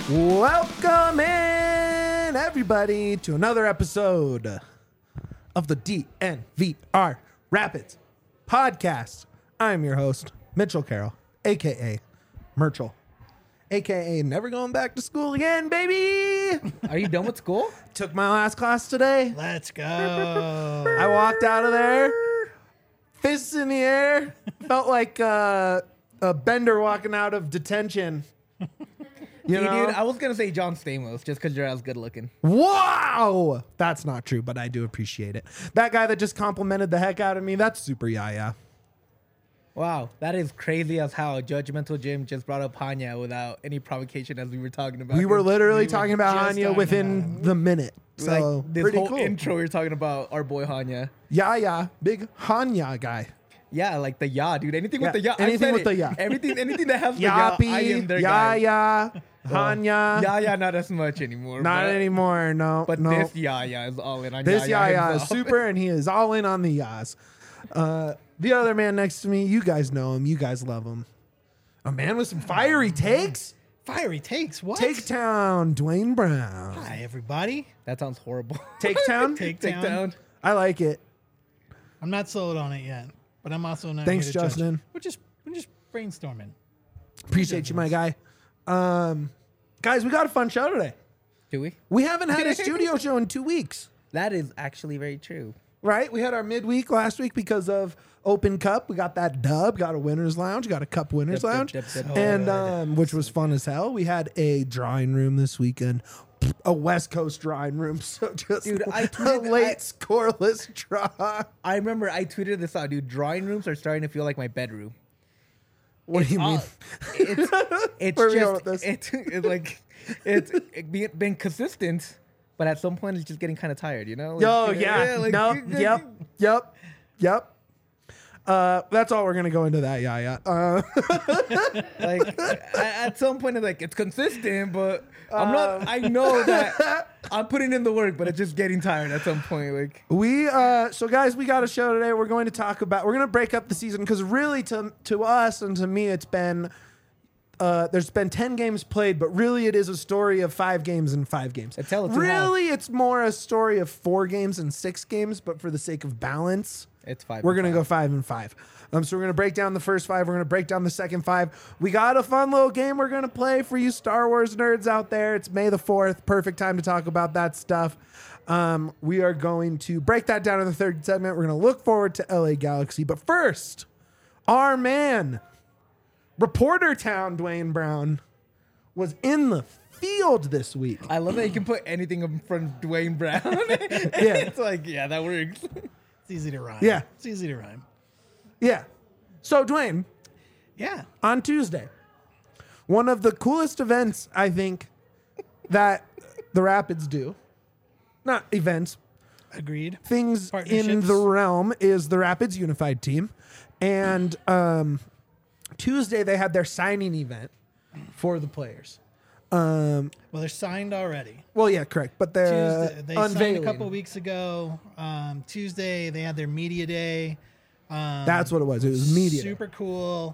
Welcome in, everybody, to another episode of the DNVR Rapids podcast. I'm your host, Mitchell Carroll, a.k.a. Merchel, a.k.a. never going back to school again, baby. Are you done with school? Took my last class today. Let's go. I walked out of there, fists in the air, felt like a bender walking out of detention. You know? Dude, I was going to say John Stamos just because you're as good looking. Wow! That's not true, but I do appreciate it. That guy that just complimented the heck out of me, that's super yaya. Wow, that is crazy as how Judgmental Jim just brought up Hanya without any provocation as we were talking about. We were literally We were talking about just Hanya talking within about the minute. So, like this pretty whole cool. intro we were talking about our boy Hanya. Yaya, big Hanya guy. Yeah, like the ya, dude. Anything with the ya. Anything I said with it. the ya. Anything that has the ya, I am Yappy, their guy. Yaya, Hanya. Ya, not as much anymore. Not but, anymore, no. But no. this ya is all in on This Yaya yaya is himself. super, and he is all in on the yas. The other man next to me, you guys know him. You guys love him. A man with some fiery takes. Fiery takes. What? Take Town, Dwayne Brown. Hi, everybody. That sounds horrible. Take Town? Take Take down. down. I like it. I'm not sold on it yet, but I'm also not. Thanks, here to judge. Justin. We're just brainstorming. Appreciate you, my guy. Guys, we got a fun show today. Do we? We haven't had a studio show in 2 weeks, That is actually very true. right? We had our midweek last week because of Open Cup. We got that dub, got a winner's lounge, got a cup winner's Yep, yep, lounge, yep, yep. and which was fun as hell. We had a drawing room this weekend, a West Coast drawing room. So just Dude, I a tweeted- late scoreless draw. I remember I tweeted this out, dude. Drawing rooms are starting to feel like my bedroom. What do you mean? It's Where are we going just with this? it's like it's been consistent, but at some point it's just getting kind of tired, you know? Like, Oh you know, yeah, like, no, yep. That's all we're gonna go into that. Yeah. Like at some point it's like it's consistent, but I'm not. I know that I'm putting in the work, but it's just getting tired at some point. Like So guys, we got a show today. We're going to break up the season because really to us and to me, it's been there's been 10 games played, but really it is a story of 5 games and 5 games. Tell it to Really, it's more a story of 4 games and 6 games, but for the sake of balance, it's 5. we're gonna go 5 and 5. So we're gonna break down the first 5. We're gonna break down the second 5. We got a fun little game we're gonna play for you Star Wars nerds out there. It's May the 4th, perfect time to talk about that stuff. We are going to break that down in the third segment. We're gonna look forward to LA Galaxy, but first, our man, Reporter Town Dwayne Brown, was in the field this week. I love that you can put anything in front of Dwayne Brown. Yeah. It's like that works. It's easy to rhyme. Yeah. It's easy to rhyme. Yeah. So Dwayne, Yeah. on Tuesday, one of the coolest events I think that the Rapids do, not events, Agreed. things in Partnerships. the realm, is the Rapids Unified Team. And Tuesday they had their signing event for the players. Well, they're signed already. Well, yeah, correct. But they're Tuesday, they signed unveiling. a couple weeks ago. Tuesday they had their media day. That's what it was. It was media. Super cool.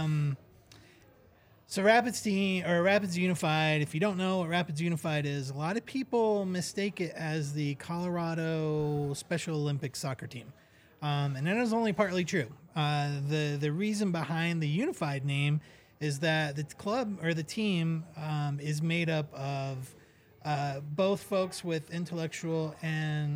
So Rapids team or Rapids Unified. If you don't know what Rapids Unified is, a lot of people mistake it as the Colorado Special Olympics soccer team, and that is only partly true. The reason behind the Unified name is that the club or the team is made up of both folks with intellectual and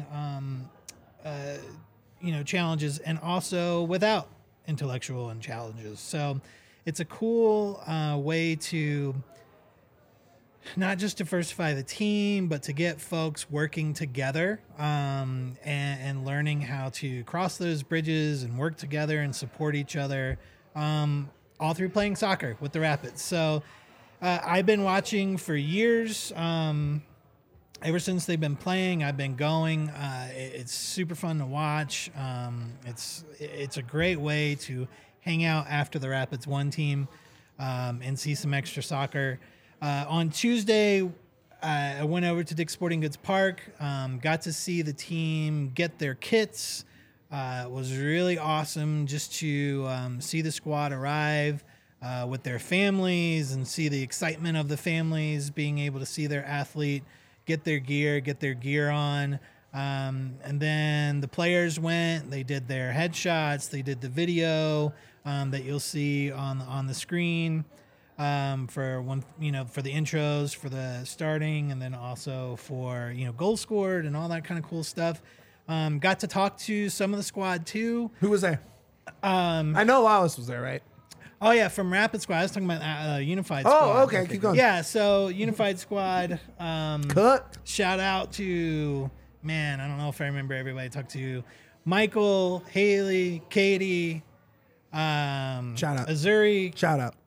challenges, and also without intellectual and challenges. So it's a cool way to not just diversify the team, but to get folks working together and learning how to cross those bridges and work together and support each other, all through playing soccer with the Rapids. So I've been watching for years. Ever since they've been playing, I've been going. It's super fun to watch. It's a great way to hang out after the Rapids 1 team and see some extra soccer. On Tuesday, I went over to Dick's Sporting Goods Park, got to see the team get their kits. It was really awesome just to see the squad arrive. with their families and see the excitement of the families being able to see their athlete get their gear on. And then the players went, they did their headshots, they did the video that you'll see on the screen for for the intros, for the starting, and then also for, goals scored and all that kind of cool stuff. Got to talk to some of the squad too. Who was there? I know Lawless was there, right? Oh yeah, from Rapid Squad. I was talking about Unified Squad. Oh, okay, keep going. Yeah, so Unified Squad. Cut. Shout out to, man, I don't know if I remember everybody I talked to. Michael, Haley, Katie, Shout out. Azuri, Shout out.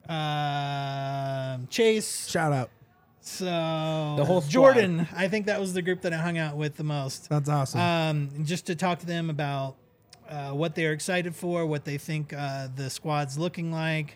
Chase. Shout out. So The whole squad. Jordan, I think that was the group that I hung out with the most. That's awesome. Just to talk to them about what they're excited for, what they think the squad's looking like.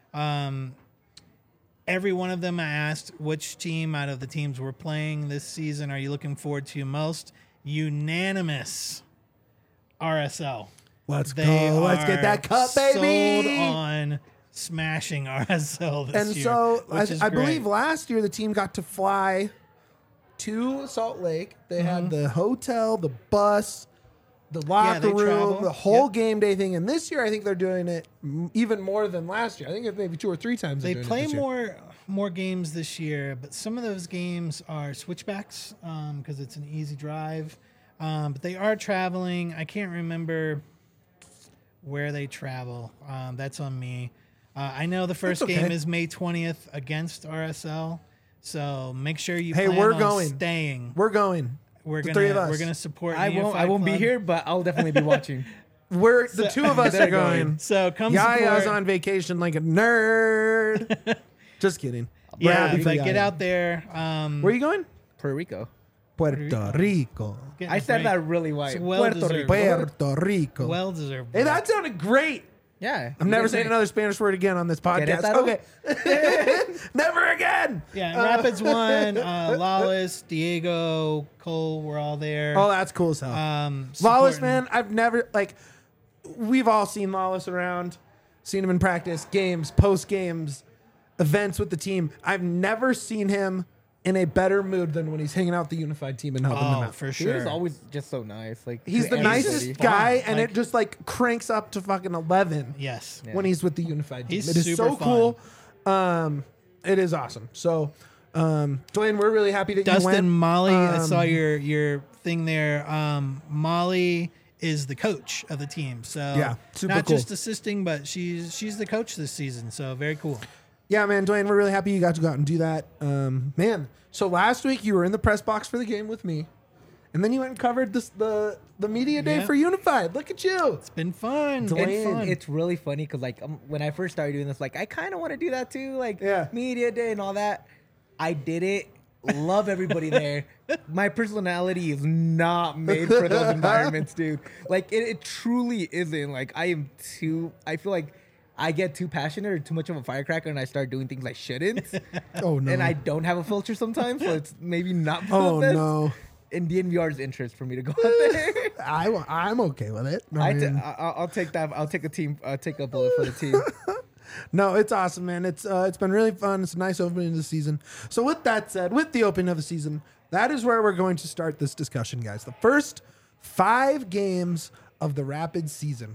Every one of them I asked which team out of the teams we're playing this season are you looking forward to most? Unanimous RSL. Let's They go. Let's get that cup, baby. Sold on smashing RSL this And year. so which is I great. believe last year the team got to fly to Salt Lake. They had the hotel, the bus, the locker they room, travel. the whole Yep. game day thing. And this year I think they're doing it even more than last year. I think it's maybe 2 or 3 times. They they're doing play it this year. more games this year, but some of those games are switchbacks because it's an easy drive. But they are traveling. I can't remember where they travel. That's on me. I know the first okay. game is May 20th against RSL, so make sure you Hey, plan we're on going. staying. We're going. We're the gonna 3 of us. we're gonna support. I Unified won't be Club. here, but I'll definitely be watching. We're the 2 of us are going. So come Yaya's support. on vacation like a nerd. Just kidding. We're Yeah, happy for but Yaya. get out there. Where are you going? Puerto Rico. Puerto Rico. Get I a said break. that really white. It's well Puerto deserved. Rico. Puerto Rico. Well deserved. Hey, that sounded great. Yeah. I'm never saying another Spanish word again on this podcast. Querétaro? Okay. Never again. Yeah, Rapids won. Lawless, Diego, Cole were all there. Oh, that's cool as hell. Lawless, Supporting- man, I've never, we've all seen Lawless around, seen him in practice, games, post games, events with the team. I've never seen him in a better mood than when he's hanging out with the unified team and helping them Oh, out. for He sure. was always just so nice. Like He's to the everybody. nicest guy, and Like- it just cranks up to fucking 11 Yes. when he's with the unified team. He's It is super so cool. It is awesome. So, Dwayne, we're really happy that you went. Dustin, Molly, I saw your thing there. Molly is the coach of the team. So Yeah, super not cool. just assisting, but she's the coach this season. So very cool. Yeah, man, Dwayne, we're really happy you got to go out and do that. Man, so last week you were in the press box for the game with me, and then you went and covered the media day Yeah. for Unified. Look at you. It's been fun. Dwayne, Been fun. It's really funny because when I first started doing this, I kind of want to do that too, Yeah. media day and all that. I did it. Love everybody there. My personality is not made for those environments, dude. It truly isn't. I feel like I get too passionate or too much of a firecracker and I start doing things I shouldn't. Oh, no. And I don't have a filter sometimes, so it's maybe not for Oh, the best. no. In DNVR's interest for me to go out there. I'm okay with it. I mean, I'll take that. I'll take a team. I'll take a bullet for the team. no, it's awesome, man. It's been really fun. It's a nice opening of the season. So with that said, with the opening of the season, that is where we're going to start this discussion, guys. The first 5 games of the Rapid season.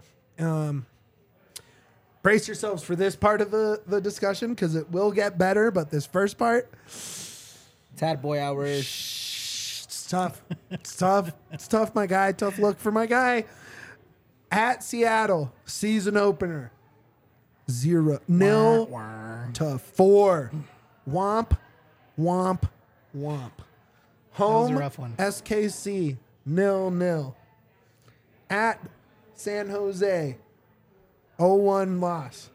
Brace yourselves for this part of the discussion because it will get better, but this first part, Tad boy hours. it's tough. It's tough. It's tough, my guy. Tough look for my guy. At Seattle, season opener. 0-0 to 4. Womp, womp, womp. Home, a rough one. SKC, 0-0. At San Jose, 0-1 loss.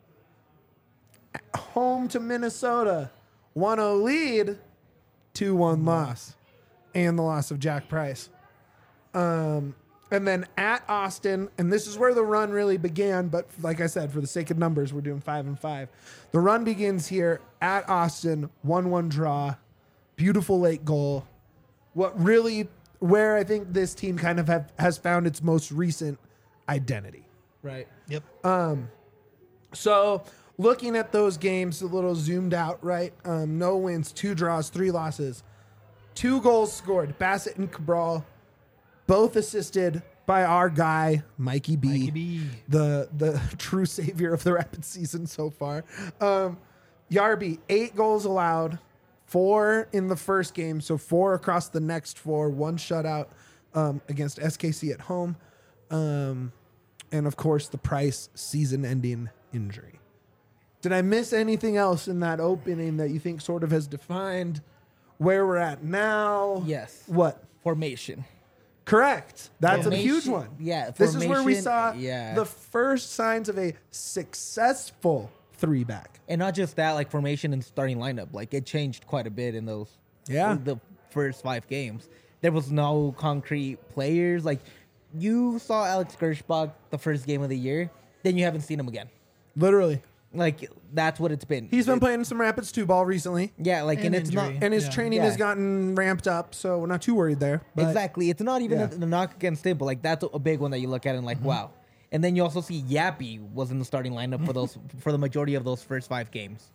At home to Minnesota, 1-0 lead, 2-1 loss. And the loss of Jack Price. And then at Austin, and this is where the run really began, but like I said, for the sake of numbers, we're doing 5-5. The run begins here at Austin, 1-1 draw, beautiful late goal. Where I think this team kind of has found its most recent identity, right? Yep. So looking at those games a little zoomed out, right? No wins, 2 draws, 3 losses, 2 goals scored. Bassett and Cabral, both assisted by our guy Mikey B, Mikey B. the true savior of the Rapid season so far. Yarby, 8 goals allowed, 4 in the first game, so 4 across the next 4, 1 shutout against SKC at home, and of course the Price season-ending injury. Did I miss anything else in that opening that you think sort of has defined where we're at now? Yes. What? Formation. Correct. That's a huge Formation, one. yeah, This is where we formation, saw yeah. the first signs of a successful 3-back. And not just that, like formation and starting lineup. Like it changed quite a bit in those the first 5 games. There was no concrete players. Like you saw Alex Gershbach the first game of the year, then you haven't seen him again. Literally. Like that's what it's been. He's been playing some Rapids 2 ball recently. Yeah, like and it's injury. not And his Yeah. training Yeah. has gotten ramped up, so we're not too worried there. But exactly. It's not even Yeah. a knock against him, but like that's a big one that you look at and like wow. And then you also see Yappy was in the starting lineup for those for the majority of those first 5 games.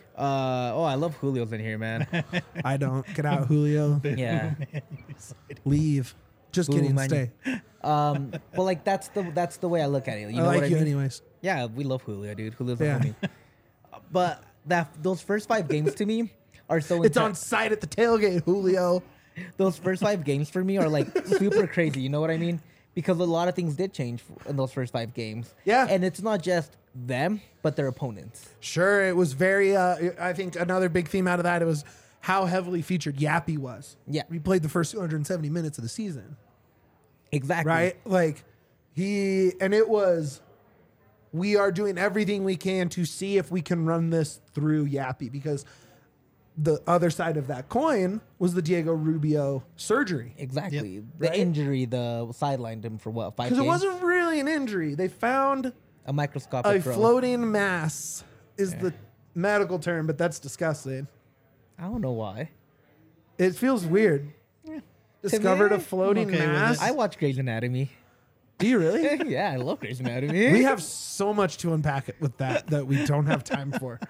I love Julio's in here, man. I don't. Get out, Julio. Yeah. Leave. Just Boo, kidding. man. Stay. But like that's the way I look at it. You I know like what I you mean? anyways. Yeah, we love Julio, dude. Julio's Yeah. a homie. But those first 5 games to me are so It's on intense. site at the tailgate, Julio. Those first 5 games for me are like super crazy. You know what I mean? Because a lot of things did change in those first 5 games. Yeah. And it's not just them, but their opponents. Sure, it was very. I think another big theme out of that, it was how heavily featured Yappy was. Yeah. He played the first 270 minutes of the season, Exactly. right? Like it was. We are doing everything we can to see if we can run this through Yappy, because the other side of that coin was the Diego Rubio surgery. Exactly. Yep. The Right? injury, sidelined him for what, 5 games? Because it wasn't really an injury. They found a microscopic a growth. floating mass is the medical term, but that's disgusting. I don't know why. It feels weird. Discovered a me, floating I'm okay with mass. it. I watch Grey's Anatomy. Do you really? Yeah, I love Grey's Anatomy. We have so much to unpack it with that we don't have time for.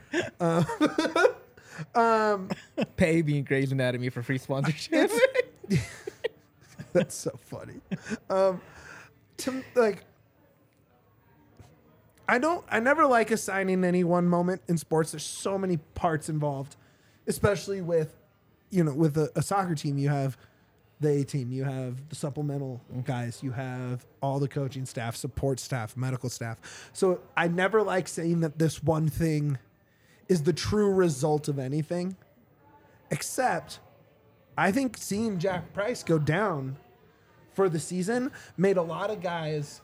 Pay me in Grey's Anatomy for free sponsorship. That's so funny. I never like assigning any one moment in sports. There's so many parts involved, especially with a soccer team. You have the A team, you have the supplemental guys, you have all the coaching staff, support staff, medical staff. So I never like saying that this one thing is the true result of anything, except I think seeing Jack Price go down for the season made a lot of guys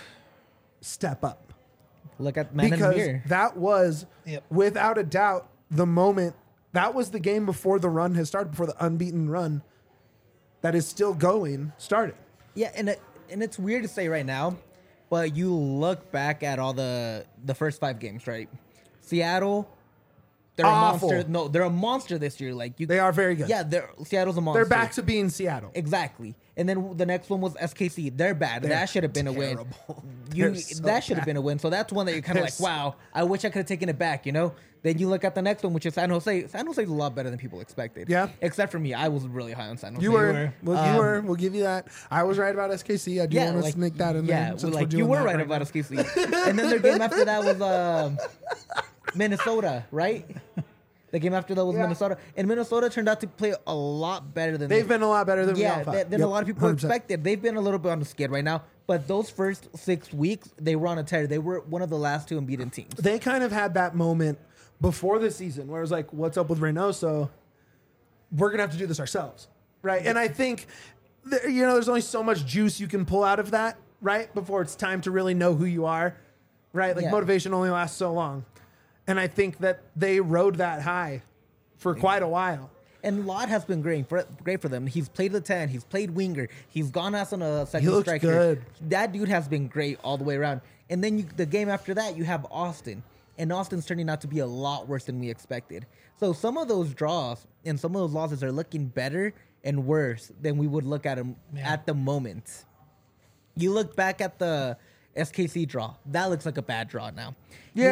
step up. Look at Man in the Because Mirror. that was, Yep. without a doubt, the moment. That was the game before the run has started, before the unbeaten run that is still going started. Yeah, and it's weird to say right now, but you look back at all the first 5 games, right? Seattle, they're Awful. a monster. No, they're a monster this year. Like They are very good. Yeah, Seattle's a monster. They're back to being Seattle. Exactly. And then the next one was SKC. They're bad. They're that should have been a win. terrible. They're so That should have been a win. So that's one that you're kind of They're like, so- wow, I wish I could have taken it back, Then you look at the next one, which is San Jose. San Jose's a lot better than people expected. Yeah. Except for me. I was really high on San Jose. You were. Well, you were. Um, We'll give you that. I was right about SKC. I do want to sneak that in there. Yeah, since well, we're like doing you were that right now. about SKC. And then their game after that was Minnesota, right? The game after that was Yeah. Minnesota. And Minnesota turned out to play a lot better than They've been a lot better than we all yeah, thought. than Yep, a lot of people 100%. expected. They've been a little bit on the skid right now. But those first 6 weeks, they were on a tear. They were one of the last 2 unbeaten teams. They kind of had that moment before the season where it was like, what's up with Reynoso? We're going to have to do this ourselves. Right. And I think, there's only so much juice you can pull out of that, right? Before it's time to really know who you are. Right. Like Yeah. motivation only lasts so long. And I think that they rode that high for quite a while. And Lott has been great for them. He's played the 10. He's played winger. He's gone as on a second He looks striker. good. That dude has been great all the way around. And then the game after that, you have Austin. And Austin's turning out to be a lot worse than we expected. So some of those draws and some of those losses are looking better and worse than we would look at them at the moment. You look back at the SKC draw. That looks like a bad draw now. Yeah.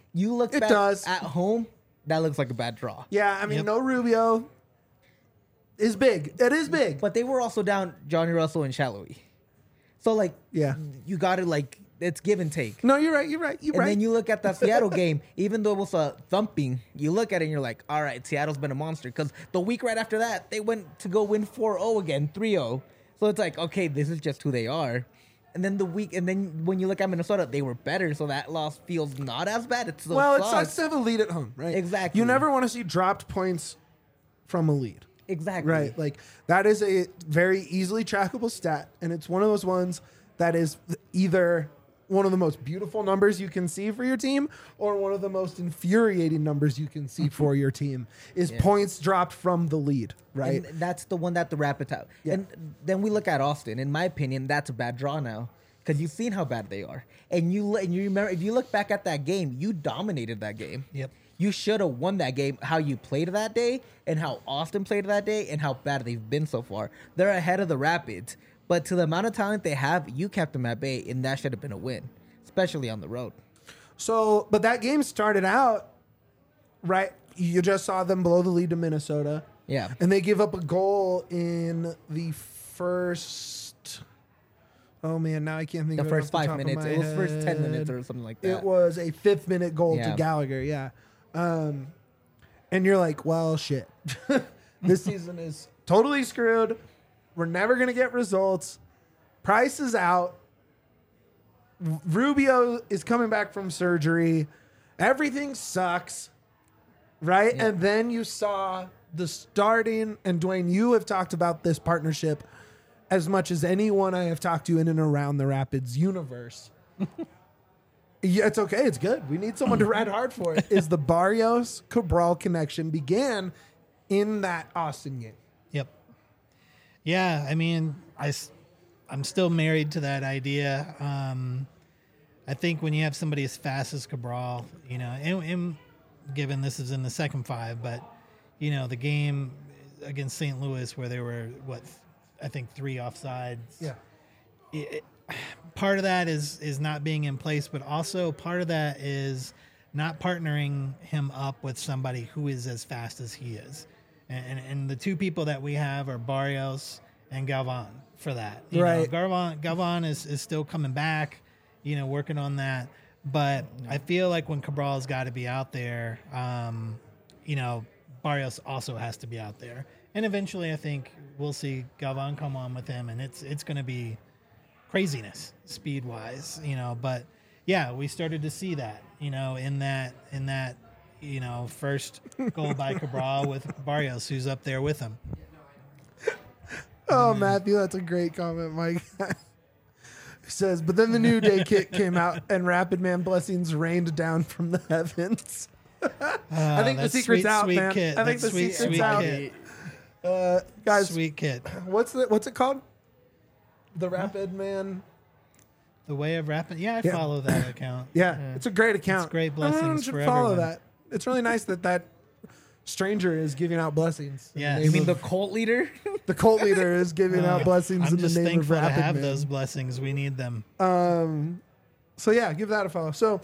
You look It back does. at home, that looks like a bad draw. Yeah, I mean, Yep. no Rubio is big. It is big. But they were also down Johnny Russell and Shallowy. So, like, Yeah. you got to, like, it's give and take. No, you're right. You're And right. then you look at that Seattle game, even though it was a thumping, you look at it and you're like, all right, Seattle's been a monster. Because the week right after that, they went to go win 4-0 again, 3-0. So it's like, okay, this is just who they are. And then when you look at Minnesota, they were better. So that loss feels not as bad. It still Well, it sucks. sucks to have a lead at home, right? Exactly. You never want to see dropped points from a lead. Exactly. Right. Like that is a very easily trackable stat. And it's one of those ones that is either one of the most beautiful numbers you can see for your team or one of the most infuriating numbers you can see for your team is points dropped from the lead. Right. And that's the one that the Rapids have. Yeah. And then we look at Austin. In my opinion, that's a bad draw now. Because you've seen how bad they are. And you remember, if you look back at that game, you dominated that game. Yep. You should have won that game, how you played that day and how Austin played that day and how bad they've been so far. They're ahead of the Rapids. But to the amount of talent they have, you kept them at bay, and that should have been a win, especially on the road. So, but that game started out, right? You just saw them blow the lead to Minnesota. Yeah. And they give up a goal in the first. Oh man, now I can't think The of it first off the 5 top of minutes. my It was first 10 minutes head. or something like that. It was a 5th minute goal to Yeah. Gallagher, yeah. And you're like, well, shit. This season is totally screwed. We're never going to get results. Price is out. Rubio is coming back from surgery. Everything sucks. Right? Yeah. And then you saw the starting, and Dwayne, you have talked about this partnership as much as anyone I have talked to in and around the Rapids universe. Yeah, it's okay. It's good. We need someone to ride hard for it. Is the Barrios Cabral connection began in that Austin game? Yep. Yeah, I mean, I'm still married to that idea. I think when you have somebody as fast as Cabral, you know, and given this is in the second 5, but you know, the game against St. Louis where there were I think 3 offsides. Yeah. Part of that is not being in place, but also part of that is not partnering him up with somebody who is as fast as he is. And the two people that we have are Barrios and Galvan for that. You Right. know, Galvan is still coming back, you know, working on that. But I feel like when Cabral's got to be out there, you know, Barrios also has to be out there. And eventually I think we'll see Galvan come on with him, and it's going to be craziness speed wise, you know, but yeah, we started to see that, you know, in that, you know, first goal by Cabral with Barrios, who's up there with him. Oh, Matthew, that's a great comment, Mike. He says, but then the New Day kit came out and Rapid Man blessings rained down from the heavens. I think the That's secret's sweet, out, sweet man. kit. I think That's the sweet, secret's sweet out. kit. Guys, Sweet kit. what's it called? The Rapid Man. The Way of Rapping. Yeah, I Yeah. follow that account. Yeah, it's a great account. It's great Everyone blessings should for follow everyone. that. It's really nice that stranger is giving out blessings. in the Yeah. name You mean of- the cult leader? the cult leader is giving out blessings I'm in the just name of thankful to Rapid have Man. those blessings. We need them. So yeah, give that a follow. So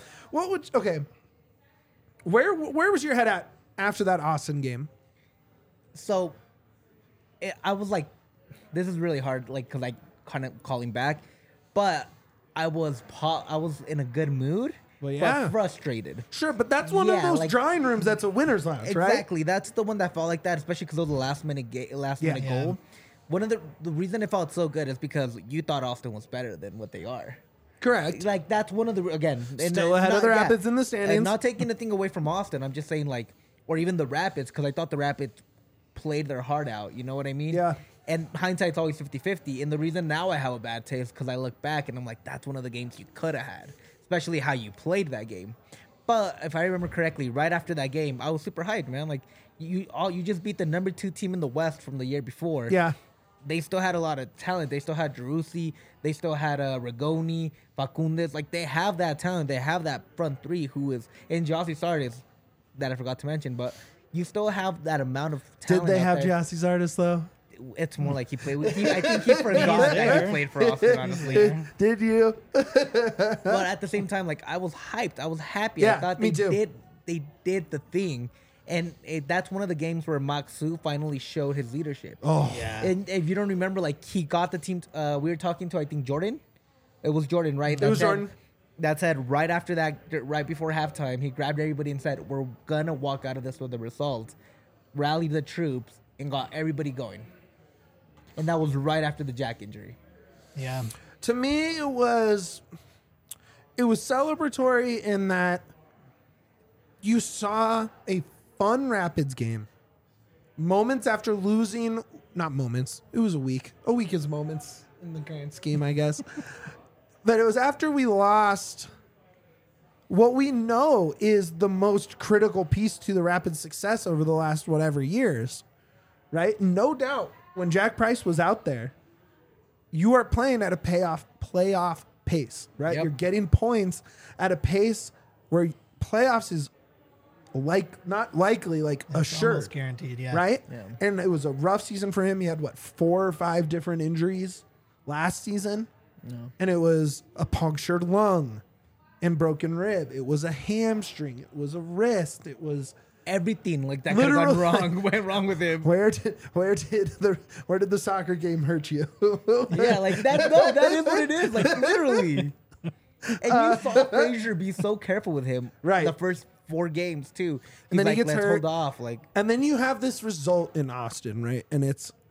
where was your head at after that Austin game? So I was like, this is really hard, like, because I kind of calling back, but I was in a good mood, Well, yeah. but frustrated. Sure, but that's one of Yeah, those like- drawing rooms that's a winner's lounge, right? Exactly, that's the one that felt like that, especially because of the last minute Yeah. goal. One of the reason it felt so good is because you thought Austin was better than what they are. Correct. Like, that's one of the, again, Still ahead of the Rapids in the standings. And not taking anything away from Austin, I'm just saying, like, or even the Rapids, because I thought the Rapids played their heart out, you know what I mean? Yeah. And hindsight's always 50-50, and the reason now I have a bad taste because I look back and I'm like, that's one of the games you could have had, especially how you played that game. But if I remember correctly, right after that game, I was super hyped, man. Like, you just beat the number 2 team in the West from the year before. Yeah. They still had a lot of talent. They still had Jerussi. They still had Rigoni, Facundes. Like, they have that talent. They have that front 3 who is, and Jossie Sardis, that I forgot to mention, but you still have that amount of Did talent. they out have there. Jassie's artist though? It's more like he played with. I think he forgot that he played for Austin. Honestly, Did you? but at the same time, like I was hyped. I was happy. Yeah, I thought me they too. did the thing, and that's one of the games where Maxu finally showed his leadership. Oh, Yeah. And if you don't remember, like he got the team. We were talking to I think Jordan. It was Jordan, right? It was Jordan. That said, right after that, right before halftime, he grabbed everybody and said, "We're gonna walk out of this with the results." Rallied the troops and got everybody going. And that was right after the Jack injury. Yeah. to me, it was celebratory in that you saw a fun Rapids game. Moments after losing, not moments, it was a week. A week is moments in the grand scheme, I guess. But it was after we lost what we know is the most critical piece to the Rapids' success over the last whatever years, right? No doubt when Jack Price was out there, you are playing at a playoff pace, right? Yep. You're getting points at a pace where playoffs is not likely, like assured, Almost guaranteed, yeah. right? Yeah. And it was a rough season for him. He had 4 or 5 different injuries last season, and it was a punctured lung and broken rib. It was a hamstring. It was a wrist. It was Everything like that could have gone Literally. wrong, went wrong with him. where did the soccer game hurt you? Yeah, like that. No, that is what it is. Like literally. And you saw Frazier be so careful with him, Right. The first 4 games too. And then he like, gets let's hurt. hold off. Like And then you have this result in Austin, right? And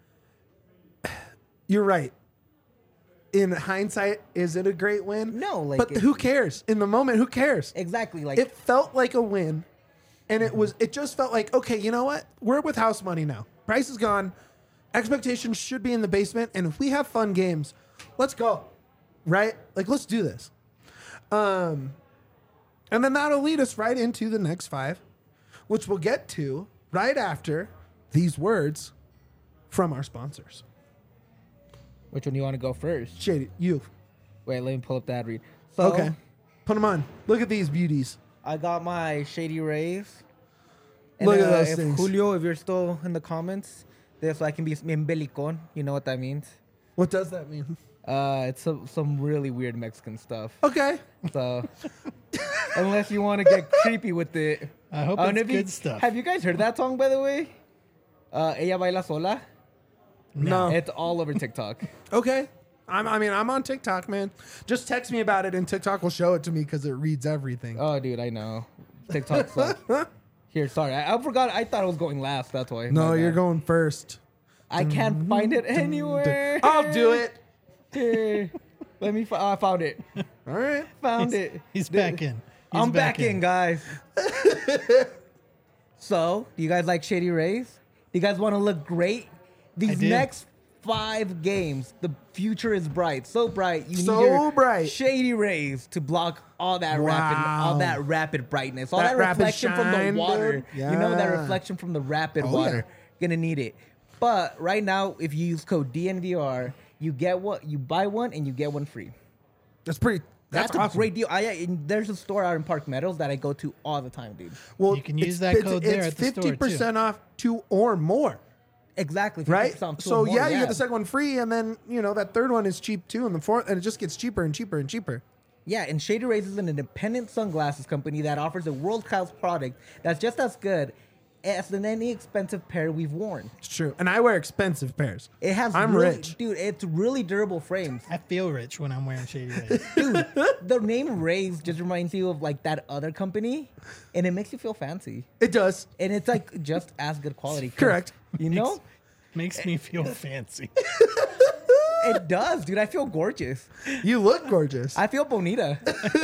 you're right. In hindsight, is it a great win? No, like, but it- who cares? In the moment, who cares? exactly. Like It felt like a win, and it just felt like, okay, you know what? We're with house money now. Price is gone. Expectations should be in the basement, and if we have fun games, let's go. Right? Like, let's do this. And then that'll lead us right into the next 5, which we'll get to right after these words from our sponsors. which one do you want to go first? Shady, you. Wait, let me pull up the ad read. So Okay. Put them on. Look at these beauties. I got my Shady Rays. And, Look at those if things. Julio, if you're still in the comments, this so I can be embelicon. You know what that means? What does that mean? It's some really weird Mexican stuff. Okay. So unless you want to get creepy with it, I hope and it's if you- good stuff. Have you guys heard that song by the way? Ella baila sola. No. It's all over TikTok. Okay. I'm on TikTok, man. Just text me about it and TikTok will show it to me because it reads everything. Oh, dude, I know. TikTok sucks. Here, sorry, I forgot. I thought I was going last. That's why. No, My you're bad. going first. I can't find it anywhere. I'll do it. Here, let me. I found it. All right. Found it. He's back in. He's I'm back in, guys. So, do you guys like Shady Rays? Do you guys want to look great? These do. next 5 games, the future is bright. So bright. You So need your bright. Shady Rays to block all that Wow. rapid brightness, all That that, rapid reflection from the shine, water. dude. You know that Yeah. reflection from the rapid Oh, water. yeah. Gonna need it. But right now, if you use code DNVR, you buy one and you get one free. That's pretty. That's a awesome. great deal. There's a store out in Park Meadows that I go to all the time, dude. Well, You can use that code there It's at the store, too. 50% off 2 or more, Exactly. 50% right? off two So or more, yeah, you get the second one free, and then that third one is cheap too, and the fourth, and it just gets cheaper and cheaper and cheaper. Yeah, and Shady Rays is an independent sunglasses company that offers a world-class product that's just as good as in any expensive pair we've worn. It's true, and I wear expensive pairs. It has I'm really, rich. dude. It's really durable frames. I feel rich when I'm wearing Shady Rays. Dude, the name Rays just reminds you of like that other company, and it makes you feel fancy. It does. And it's like just as good quality. 'cause, Correct. You know, Makes me feel fancy. it does, dude. I feel gorgeous. You look gorgeous. I feel bonita.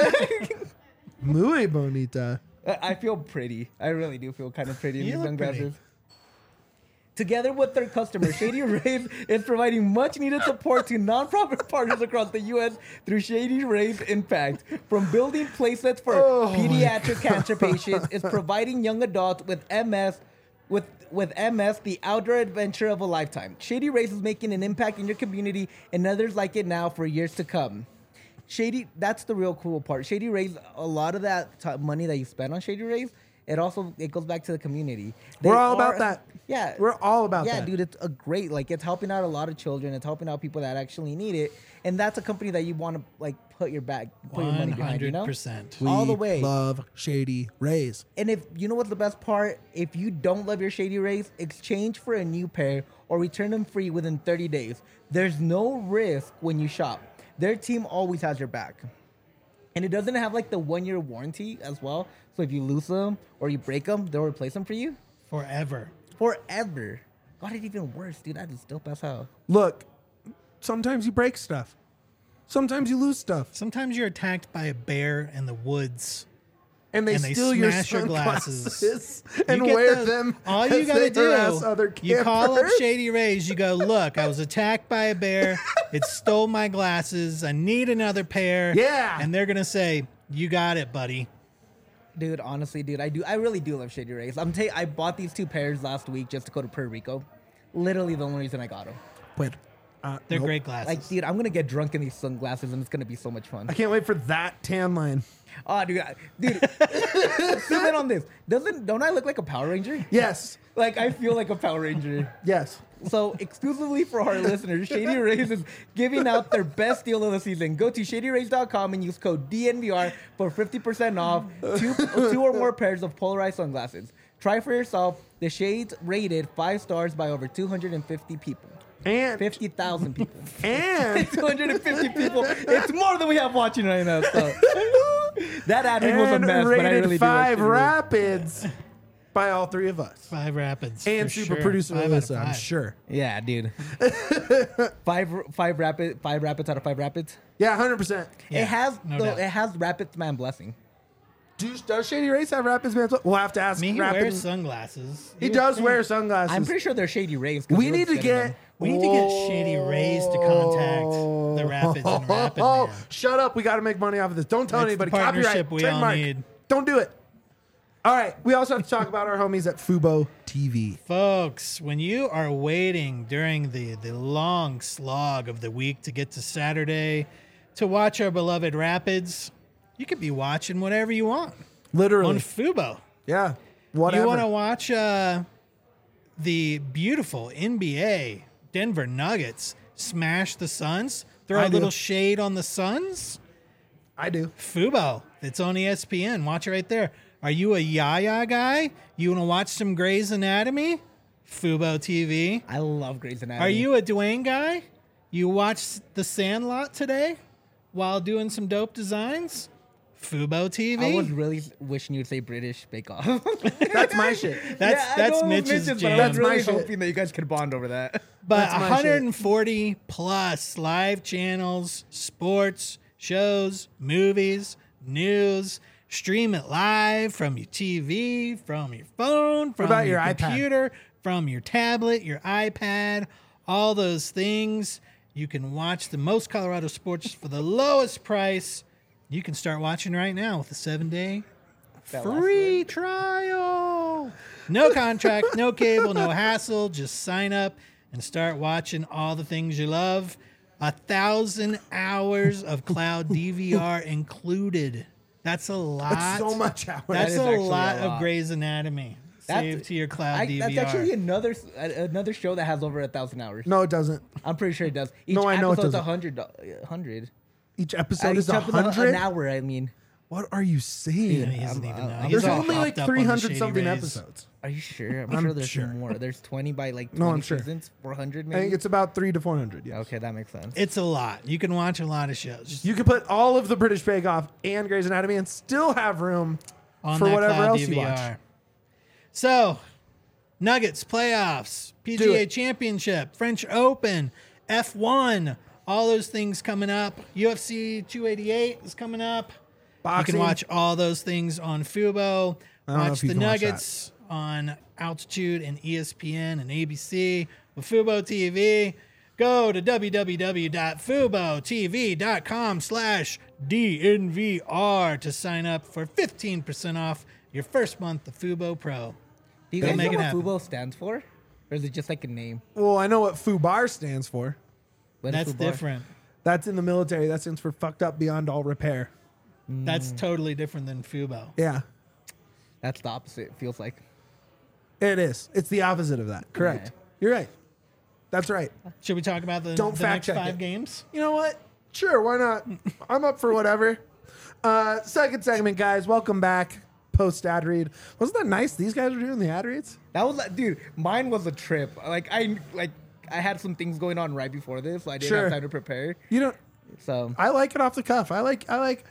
Muy bonita. I feel pretty. I really do feel kind of pretty in You these look sunglasses. pretty. Together with their customers, Shady Rays is providing much needed support to nonprofit partners across the U.S. through Shady Rays Impact. From building playsets for pediatric cancer patients, is providing young adults with MS with MS the outdoor adventure of a lifetime. Shady Rays is making an impact in your community and others like it now for years to come. Shady, that's the real cool part. Shady Rays, a lot of that money that you spend on Shady Rays, it goes back to the community. We're all about that. Yeah, We're all about that. Yeah, dude, it's a great, like, it's helping out a lot of children. It's helping out people that actually need it, and that's a company that you want to like put your money behind. You know, 100%. all the way. Love Shady Rays. And if you know what's the best part, if you don't love your Shady Rays, exchange for a new pair or return them free within 30 days. There's no risk when you shop. Their team always has your back. And it doesn't have like the 1-year warranty as well. So if you lose them or you break them, they'll replace them for you Forever. forever. God, it's even worse, dude. That is dope as hell. Look, sometimes you break stuff. Sometimes you lose stuff. Sometimes you're attacked by a bear in the woods. And they And they steal your smash your sunglasses You and get wear those- them. All you as gotta they harass do, other you call up campers. Shady Rays. You go, look, I was attacked by a bear. It stole my glasses. I need another pair. Yeah. And they're gonna say, you got it, buddy. Dude, honestly, dude, I really do love Shady Rays. I bought these 2 pairs last week just to go to Puerto Rico. Literally the only reason I got them. Wait, They're nope. great glasses. Like, dude, I'm gonna get drunk in these sunglasses, and it's gonna be so much fun. I can't wait for that tan line. Oh, dude, zoom in on this. Don't I look like a Power Ranger? Yes. Like, I feel like a Power Ranger. Yes. So, exclusively for our listeners, Shady Rays is giving out their best deal of the season. Go to shadyrays.com and use code DNVR for 50% off 2 or more pairs of polarized sunglasses. Try for yourself. The shades rated 5 stars by over 250 people. And 50,000 people. and 250 people. It's more than we have watching right now. So that ad read was a and mess, but I rated really 5 do. Like rapids by all 3 of us. 5 Rapids. And for super sure. producer 5 out of Alyssa, I'm 5. sure. yeah, dude. five rapids out of 5 rapids. Yeah, 100%. Yeah, it has no doubt. it has Rapids Man blessing. Does Shady Rays have rapids, man? We'll have to ask I mean, he Rapid. wears sunglasses. He does wear sunglasses. I'm pretty sure they're Shady Rays. 'cause We he need looks to good in get. them. We need to get Shady Rays to contact the Rapids and Rapid Man. Shut up. We got to make money off of this. Don't tell That's the anybody. partnership Copyright. we all Trademark. need. Don't do it. All right. We also have to talk about our homies at Fubo TV. Folks, when you are waiting during the long slog of the week to get to Saturday to watch our beloved Rapids, you could be watching whatever you want Literally. on Fubo. Yeah. Whatever. You want to watch the beautiful NBA Denver Nuggets smash the Suns? Throw I a do. little shade on the Suns? I do. Fubo. It's on ESPN. Watch it right there. Are you a Yaya guy? You want to watch some Grey's Anatomy? Fubo TV. I love Grey's Anatomy. Are you a Dwayne guy? You watched The Sandlot today while doing some dope designs? Fubo TV. I was really wishing you'd say British Bake Off. That's my shit. That's Mitch's But I jam. was That's my really shit. hoping that you guys could bond over that. But That's my shit. 140 plus live channels, sports, shows, movies, news. Stream it live from your TV, from your phone, from about your your iPad? computer, from your tablet, your iPad, all those things. You can watch the most Colorado sports for the lowest price. You can start watching right now with a 7-day That last free trial. No contract, no cable, no hassle. Just sign up and start watching all the things you love. 1,000 hours of cloud DVR included. That's a lot. That's so much hours. That's is a actually lot a of lot. Grey's Anatomy. Saved to your cloud DVR. That's actually another show that has over 1,000 hours. No, it doesn't. I'm pretty sure it does. Each No, I know it episode's doesn't. 100. Each episode is Each episode 100. an hour. I mean, What are you saying? He doesn't even know. I'm- He's There's all only hopped like up on the 300 Shady something Rays. episodes. are you sure? I'm, I'm sure there's sure. more. There's 20 by like 20 No, I'm sure. seasons. 400 I maybe. think it's about 300 to 400. Yeah. Okay, that makes sense. It's a lot. You can watch a lot of shows You could put all of the British Bake Off and Grey's Anatomy and still have room on for that whatever cloud else DVR. you watch. So, Nuggets playoffs, Do PGA it. Championship, French Open, F1, all those things coming up. UFC 288 is coming up. Boxing. You can watch all those things on Fubo. I don't know Watch if you the can watch Nuggets on Altitude and ESPN and ABC with Fubo TV. Go to www.FuboTV.com/DNVR to sign up for 15% off your first month of Fubo Pro. Do you Go guys make know it what happen. Fubo stands for? Or is it just like a name? Well, I know what FUBAR stands for. What is That's Fubar? different. That's in the military. That stands for fucked up beyond all repair. That's totally different than Fubo. Yeah. That's the opposite. It feels like. It is. It's the opposite of that. Correct. Yeah. You're right. That's right. Should we talk about the Don't fact next check 5 it. games? You know what? Sure, why not? I'm up for whatever. Second segment, guys. Welcome back. Post ad read. Wasn't that nice? These guys were doing the ad reads. That was like, dude, mine was a trip. I had some things going on right before this, so I didn't Sure. have time to prepare. You don't. So I like it off the cuff. I like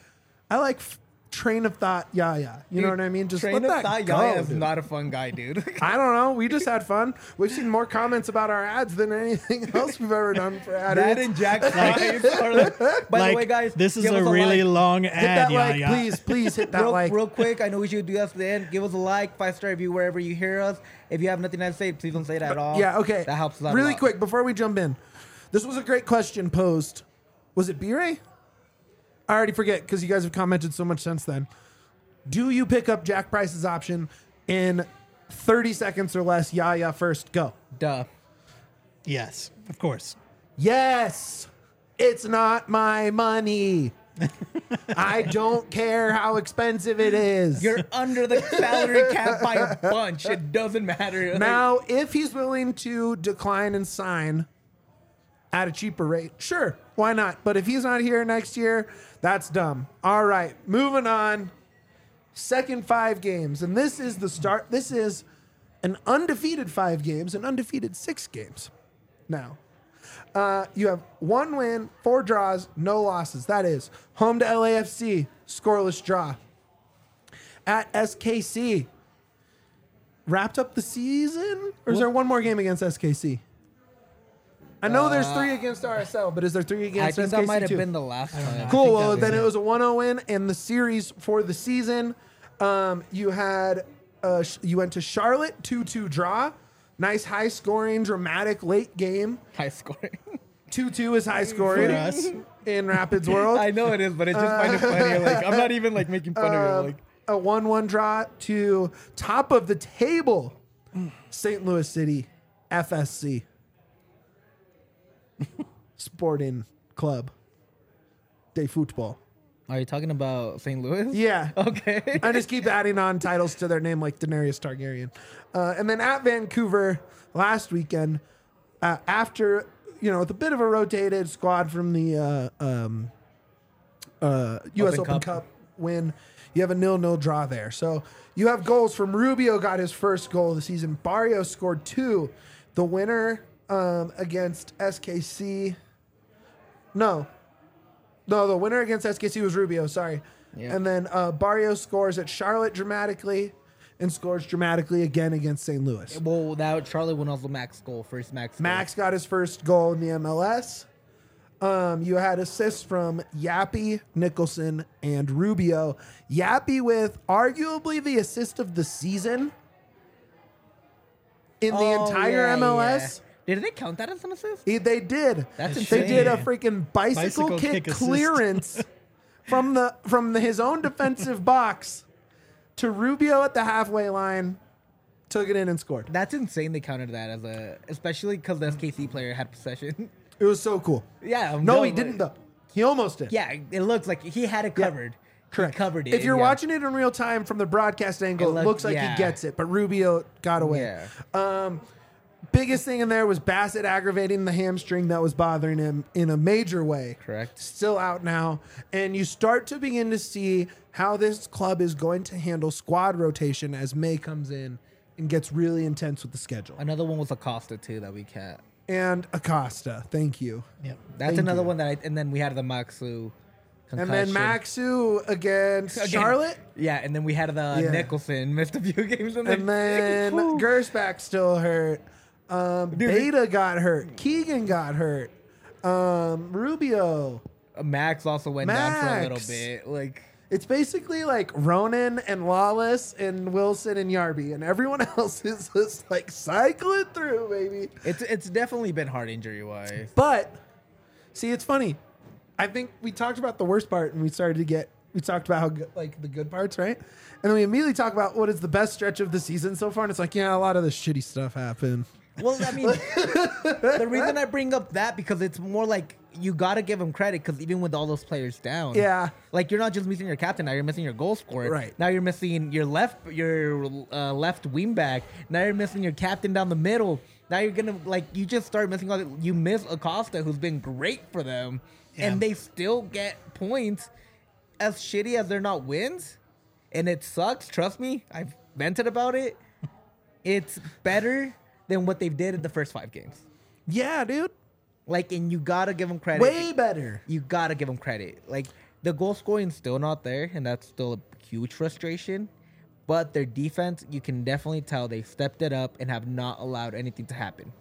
train of thought. Yeah. You know what I mean? Just Train let of that thought, go. Yaya is dude. not a fun guy, dude. I don't know. We just had fun. We've seen more comments about our ads than anything else we've ever done for ad That reads. and Jack's eyes are like, by Like, the way, guys, this is give a us really like. long Hit ad. that Yeah, like, yeah. please hit that like. Real quick, I know we should do this at the end. Give us a like, 5-star review wherever you hear us. If you have nothing to say, please don't say that at all. Yeah, okay. That helps us out a Really lot. quick before we jump in. This was a great question posed. Was it B-Ray? I already forget because you guys have commented so much since then. Do you pick up Jack Price's option in 30 seconds or less? Yeah, first, go. Duh. Yes, of course. Yes, it's not my money. I don't care how expensive it is. You're under the salary cap by a bunch. It doesn't matter. Now, if he's willing to decline and sign at a cheaper rate, sure, why not? But if he's not here next year, that's dumb. All right, moving on. Second 5 games, and this is the start. This is an undefeated 5 games, an undefeated 6 games. Now, you have 1 win, 4 draws, no losses. That is home to LAFC, scoreless draw. At SKC, wrapped up the season, or is there one more game against SKC? I know there's 3 against RSL, but is there 3 I against think SKC that might have too? been the last time. Cool. think Well, that then was it it. was a 1-0 win, and the series for the season, you had you went to Charlotte 2-2 draw. Nice high scoring, dramatic late game. High scoring. 2-2 is high scoring For us. in Rapids world. I know it is, but it's just find it funny. Like I'm not even like making fun of it. Like A 1-1 draw to top of the table, St. Louis City FSC Sporting Club de Football. are you talking about St. Louis? Yeah. Okay. I just keep adding on titles to their name like Daenerys Targaryen. And then at Vancouver last weekend, after, with a bit of a rotated squad from the U.S. Open Cup win, you have a 0-0 draw there. So you have goals from Rubio, got his first goal of the season. Barrios scored 2. The winner against SKC. No, the winner against SKC was Rubio, sorry. Yeah. And then Barrios scores at Charlotte dramatically and scores dramatically again against St. Louis. Well, that Charlotte won also Max goal, first Max goal. Max got his first goal in the MLS. You had assists from Yappy, Nicholson, and Rubio. Yappy with arguably the assist of the season in the entire MLS. Yeah. Did they count that as an assist? They did. That's They insane. did a freaking bicycle Bicycle kick kick assist. clearance from his own defensive box to Rubio at the halfway line, took it in and scored. That's insane. They counted that as especially because the SKC player had possession. It was so cool. Yeah. No, he didn't though. He almost did. Yeah, it looks like he had it covered. Correct. He covered it. If you're yeah. watching it in real time from the broadcast angle, it looks like yeah. he gets it, but Rubio got away. Yeah. Biggest thing in there was Bassett aggravating the hamstring that was bothering him in a major way. Correct. Still out now. And you start to begin to see how this club is going to handle squad rotation as May comes in and gets really intense with the schedule. Another one was Acosta too that we can't. And Acosta, thank you. Yep. That's Thank another you. one that and then we had the Maxu concussion. And then Maxu against Again. Charlotte. Yeah, and then we had the Yeah. Nicholson missed a few games. And then Gersbach still hurt. Beta got hurt. Keegan got hurt. Rubio. Max also went down for a little Max. bit. Like It's basically like Ronan and Lawless and Wilson and Yarby, and everyone else is just like cycling through, baby. it's definitely been hard injury wise. But see, it's funny. I think we talked about the worst part, and we talked about how good, like the good parts, right? And then we immediately talk about what is the best stretch of the season so far, and it's like, yeah, a lot of the shitty stuff happened. Well, I mean, the reason I bring up that because it's more like you got to give him credit because even with all those players down, Yeah. like you're not just missing your captain now, you're missing your goal scorer. Right. Now you're missing your left wing back. Now you're missing your captain down the middle. Now you're gonna you just start missing you miss Acosta, who's been great for them, and they still get points. As shitty as they're not wins, and it sucks. Trust me, I've vented about it. It's better than what they've did in the first 5 games. Yeah, dude. And you gotta give them credit. Way better. You gotta give them credit. The goal scoring's still not there, and that's still a huge frustration. But their defense, you can definitely tell they stepped it up and have not allowed anything to happen.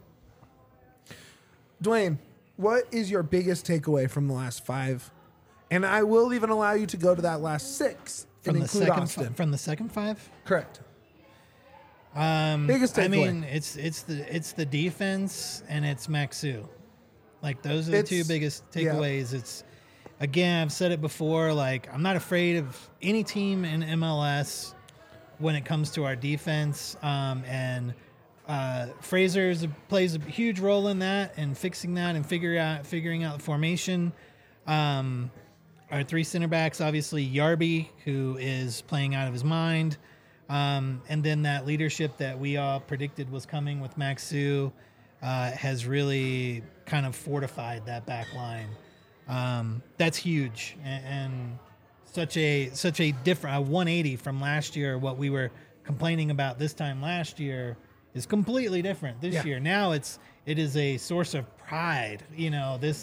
Dwayne, what is your biggest takeaway from the last 5? And I will even allow you to go to that last 6 and include Austin. From the second 5. Correct. Biggest takeaway. I mean, it's the defense and it's Maxu. Those are the two biggest takeaways. It's, again, I've said it before. I'm not afraid of any team in MLS when it comes to our defense. And Fraser plays a huge role in that and fixing that and figuring out the formation. Our 3 center backs, obviously Yarby, who is playing out of his mind. And then that leadership that we all predicted was coming with Maxu has really kind of fortified that back line. That's huge and such a different 180 from last year. What we were complaining about this time last year is completely different this year. Now it is a source of pride. This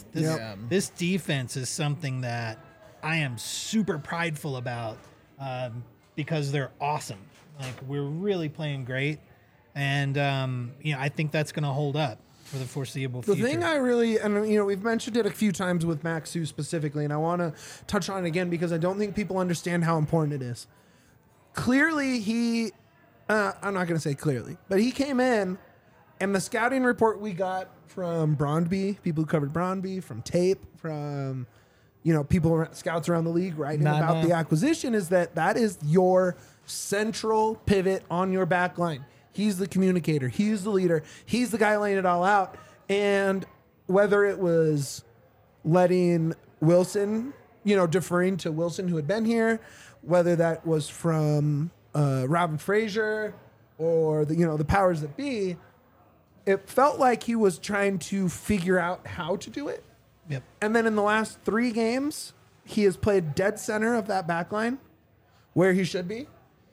defense is something that I am super prideful about because they're awesome. We're really playing great, and I think that's going to hold up for the foreseeable future. The thing I really, and we've mentioned it a few times with Maxu specifically, and I want to touch on it again because I don't think people understand how important it is. Clearly, I'm not going to say clearly, but he came in, and the scouting report we got from Brondby, people who covered Brondby, from Tape, from scouts around the league writing about the acquisition, is that is your central pivot on your back line. He's the communicator. He's the leader. He's the guy laying it all out. And whether it was letting Wilson, deferring to Wilson who had been here, whether that was from Robin Fraser or the powers that be, it felt like he was trying to figure out how to do it. Yep. And then in the last 3 games, he has played dead center of that back line where he should be.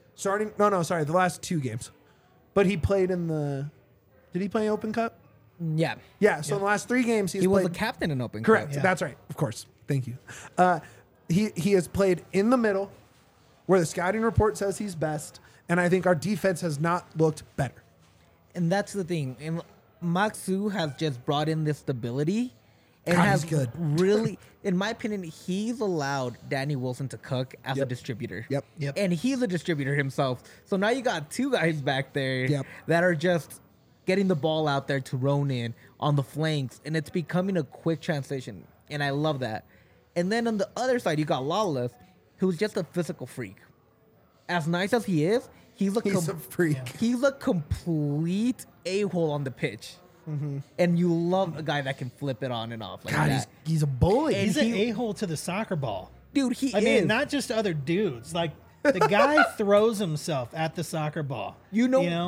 The last 2 games. But he played did he play Open Cup? Yeah. Yeah, so in the last 3 games, he was a captain in Open Cup. Correct, Yeah. that's right. Of course. Thank you. He has played in the middle where the scouting report says he's best, and I think our defense has not looked better. And that's the thing. And Maxu has just brought in this stability. And God, has he's good. really, in my opinion, he's allowed Danny Wilson to cook as a distributor. Yep. And he's a distributor himself. So now you got 2 guys back there that are just getting the ball out there to Ronan on the flanks. And it's becoming a quick transition. And I love that. And then on the other side, you got Lawless, who's just a physical freak. As nice as he is, he's a freak. Yeah. He's a complete a-hole on the pitch. Mm-hmm. And you love a guy that can flip it on and off like God, that. he's a bully. He's an a-hole to the soccer ball. Dude, he I is. mean, not just other dudes. The guy throws himself at the soccer ball. He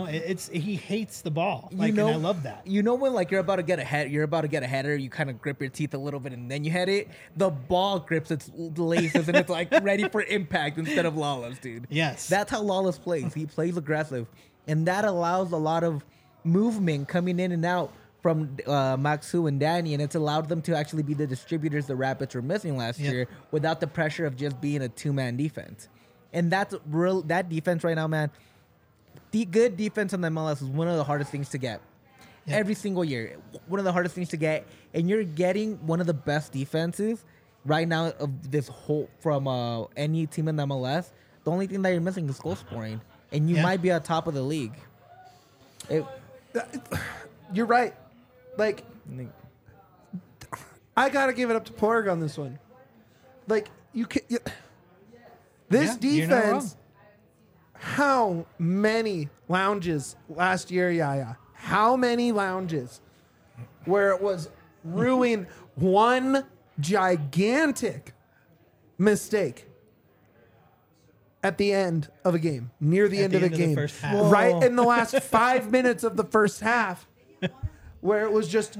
hates the ball. And I love that. You know when you're about to get a header, you kind of grip your teeth a little bit and then you head it. The ball grips its laces and it's ready for impact instead of Lawless, dude. Yes. That's how Lawless plays. He plays aggressive, and that allows a lot of movement coming in and out from Maxu and Danny, and it's allowed them to actually be the distributors the Rapids were missing last year without the pressure of just being a 2-man defense. And that's that defense right now, man. The good defense in the MLS is one of the hardest things to get. Yep. Every single year, one of the hardest things to get, and you're getting one of the best defenses right now of this whole from any team in the MLS. The only thing that you're missing is goal scoring, and you might be at top of the league. You're right. I gotta give it up to Porg on this one. This defense. How many lounges last year, Yaya? How many lounges where it was ruin one gigantic mistake at the end of a game, near the end of the game, first half. right in the last 5 minutes of the first half, where it was just,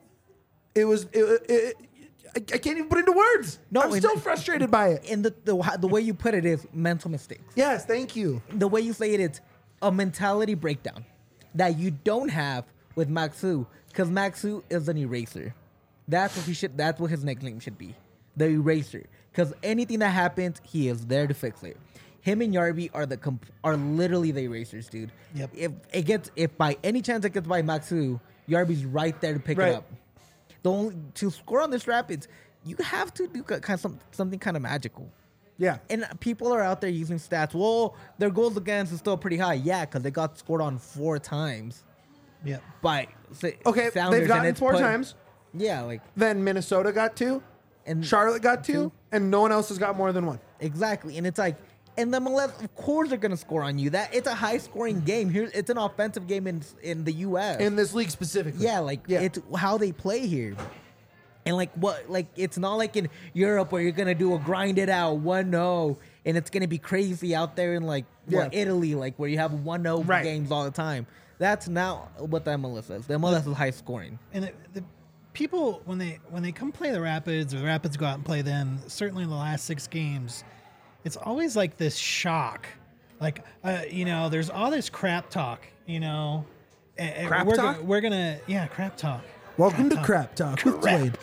I can't even put it into words. No, I'm still frustrated by it. And the way you put it is mental mistakes. Yes, thank you. The way you say it is a mentality breakdown that you don't have with Maxu, because Maxu is an eraser. That's what his nickname should be, the eraser. Because anything that happens, he is there to fix it. Him and Yarby are literally the erasers, dude. Yep. If by any chance it gets by Maxu, Yarby's right there to pick Right. it up. To score on this Rapids, you have to do something kind of magical. Yeah. And people are out there using stats. Well, their goals against is still pretty high. Yeah, because they got scored on 4 times. Yep. By Okay, Sounders, they've gotten and it's 4 times. Yeah, like Then Minnesota got 2, and Charlotte got 2, two. and no one else has got more than 1. exactly. And it's like, and the MLS, of course, they're gonna score on you. That it's a high scoring game. Here, it's an offensive game in the U.S. In this league specifically. Yeah, like it's how they play here. And it's not like in Europe where you're gonna do a grind it out 1-0 and it's gonna be crazy out there in Italy, like where you have 1-0 Right. games all the time. That's not what the MLS is. The MLS is high scoring. And the people when they come play the Rapids or the Rapids go out and play them, certainly in the last 6 games, it's always like this shock. Like there's all this crap talk, Crap talk? We're gonna crap talk. Welcome to Crap Talk with Wade.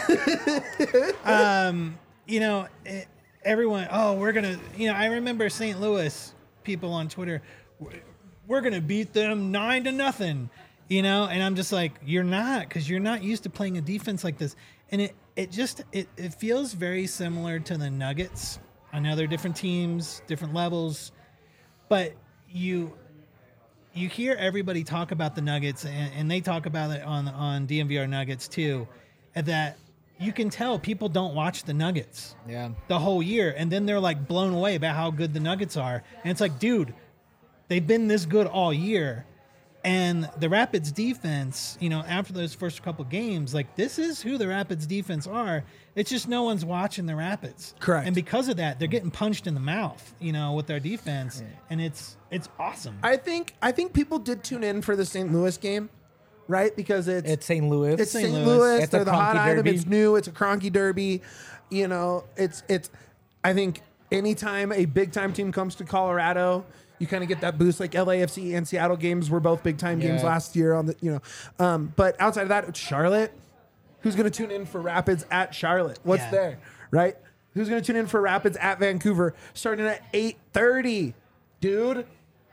Everyone, we're gonna, I remember St. Louis people on Twitter, we're gonna beat them 9-0, and I'm just like, you're not, because you're not used to playing a defense like this, and it feels very similar to the Nuggets. I know they're different teams, different levels, but you hear everybody talk about the Nuggets, and they talk about it on DMVR Nuggets too, and that you can tell people don't watch the Nuggets the whole year, and then they're like blown away about how good the Nuggets are. And it's like, dude, they've been this good all year. And the Rapids defense, after those first couple games, like, this is who the Rapids defense are. It's just no one's watching the Rapids. Correct. And because of that, they're getting punched in the mouth, with their defense. And it's awesome. I think people did tune in for the St. Louis game, right? Because it's St. Louis. It's St. St. Louis. Louis. It's They're a the hot Kroenke item. derby. It's new. It's a Kroenke derby. It's. I think anytime a big time team comes to Colorado, you kind of get that boost. Like LAFC and Seattle games were both big time games Yeah. last year on the But outside of that, it's Charlotte. Who's going to tune in for Rapids at Charlotte? What's Yeah. there, right? Who's going to tune in for Rapids at Vancouver starting at 8:30, dude?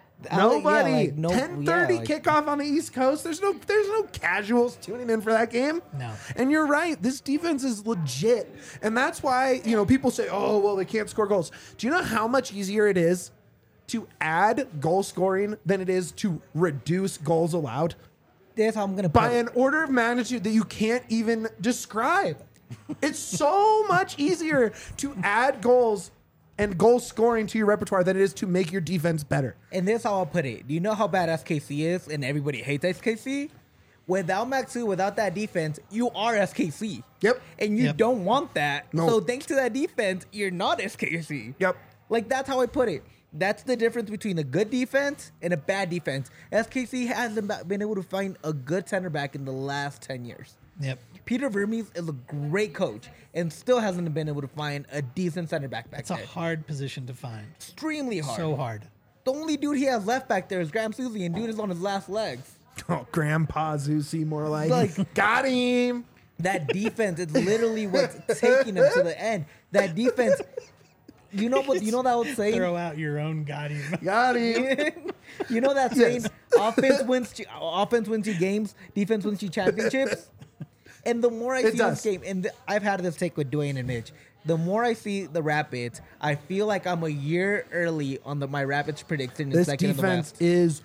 Nobody. 10:30 kickoff on the East Coast. There's no casuals tuning in for that game. No. And you're right. This defense is legit. And that's why, people say, "Oh, well, they can't score goals." Do you know how much easier it is to add goal scoring than it is to reduce goals allowed? That's how I'm gonna By put it. an order of magnitude that you can't even describe. It's so much easier to add goals and goal scoring to your repertoire than it is to make your defense better. And this is how I'll put it. Do you know how bad SKC is and everybody hates SKC? Without Maxu, without that defense, you are SKC. Yep. And you Yep. don't want that. No. So thanks to that defense, you're not SKC. Yep. Like, that's how I put it. That's the difference between a good defense and a bad defense. SKC hasn't been able to find a good center back in the last 10 years. Yep. Peter Vermees is a great coach and still hasn't been able to find a decent center back It's a there. hard position to find. Extremely hard. So hard. The only dude he has left back there is Graham Susie, and dude is on his last legs. Oh, Grandpa Zusi, more like. Like- Got him. That defense is literally what's taking him to the end. That defense, you know that old saying? Throw out your own goddamn. Got him. You know that saying? Offense wins you games, defense wins you championships. And the more I see does. this game, and I've had this take with Dwayne and Mitch, the more I see the Rapids, I feel like I'm a year early on my Rapids prediction in This second in the defense West. is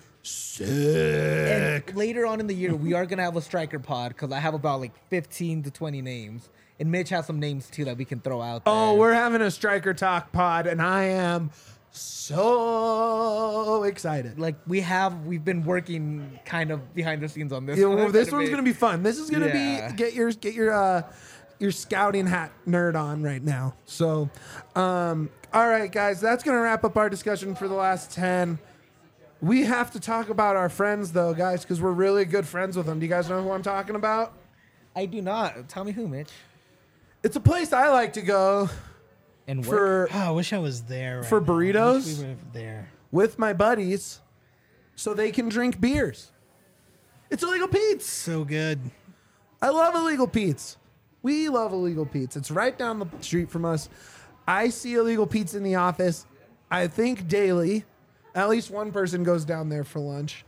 sick. And later on in the year, we are going to have a striker pod because I have about like 15 to 20 names. And Mitch has some names too that we can throw out there. Oh, we're having a striker talk pod, and I am so excited. Like we've been working kind of behind the scenes on this. Yeah, one well, this quite a one's bit. gonna be fun. This is gonna Yeah. be get your scouting hat nerd on right now. So, all right, guys, that's gonna wrap up our discussion for the last 10. We have to talk about our friends though, guys, because we're really good friends with them. Do you guys know who I'm talking about? I do not. Tell me who, Mitch. It's a place I like to go And for Oh, I wish I was there. Right For now. I wish burritos? we were there. with my buddies so they can drink beers. It's Illegal Pete's. So good. I love Illegal Pete's. We love Illegal Pete's. It's right down the street from us. I see Illegal Pete's in the office, I think daily. At least one person goes down there for lunch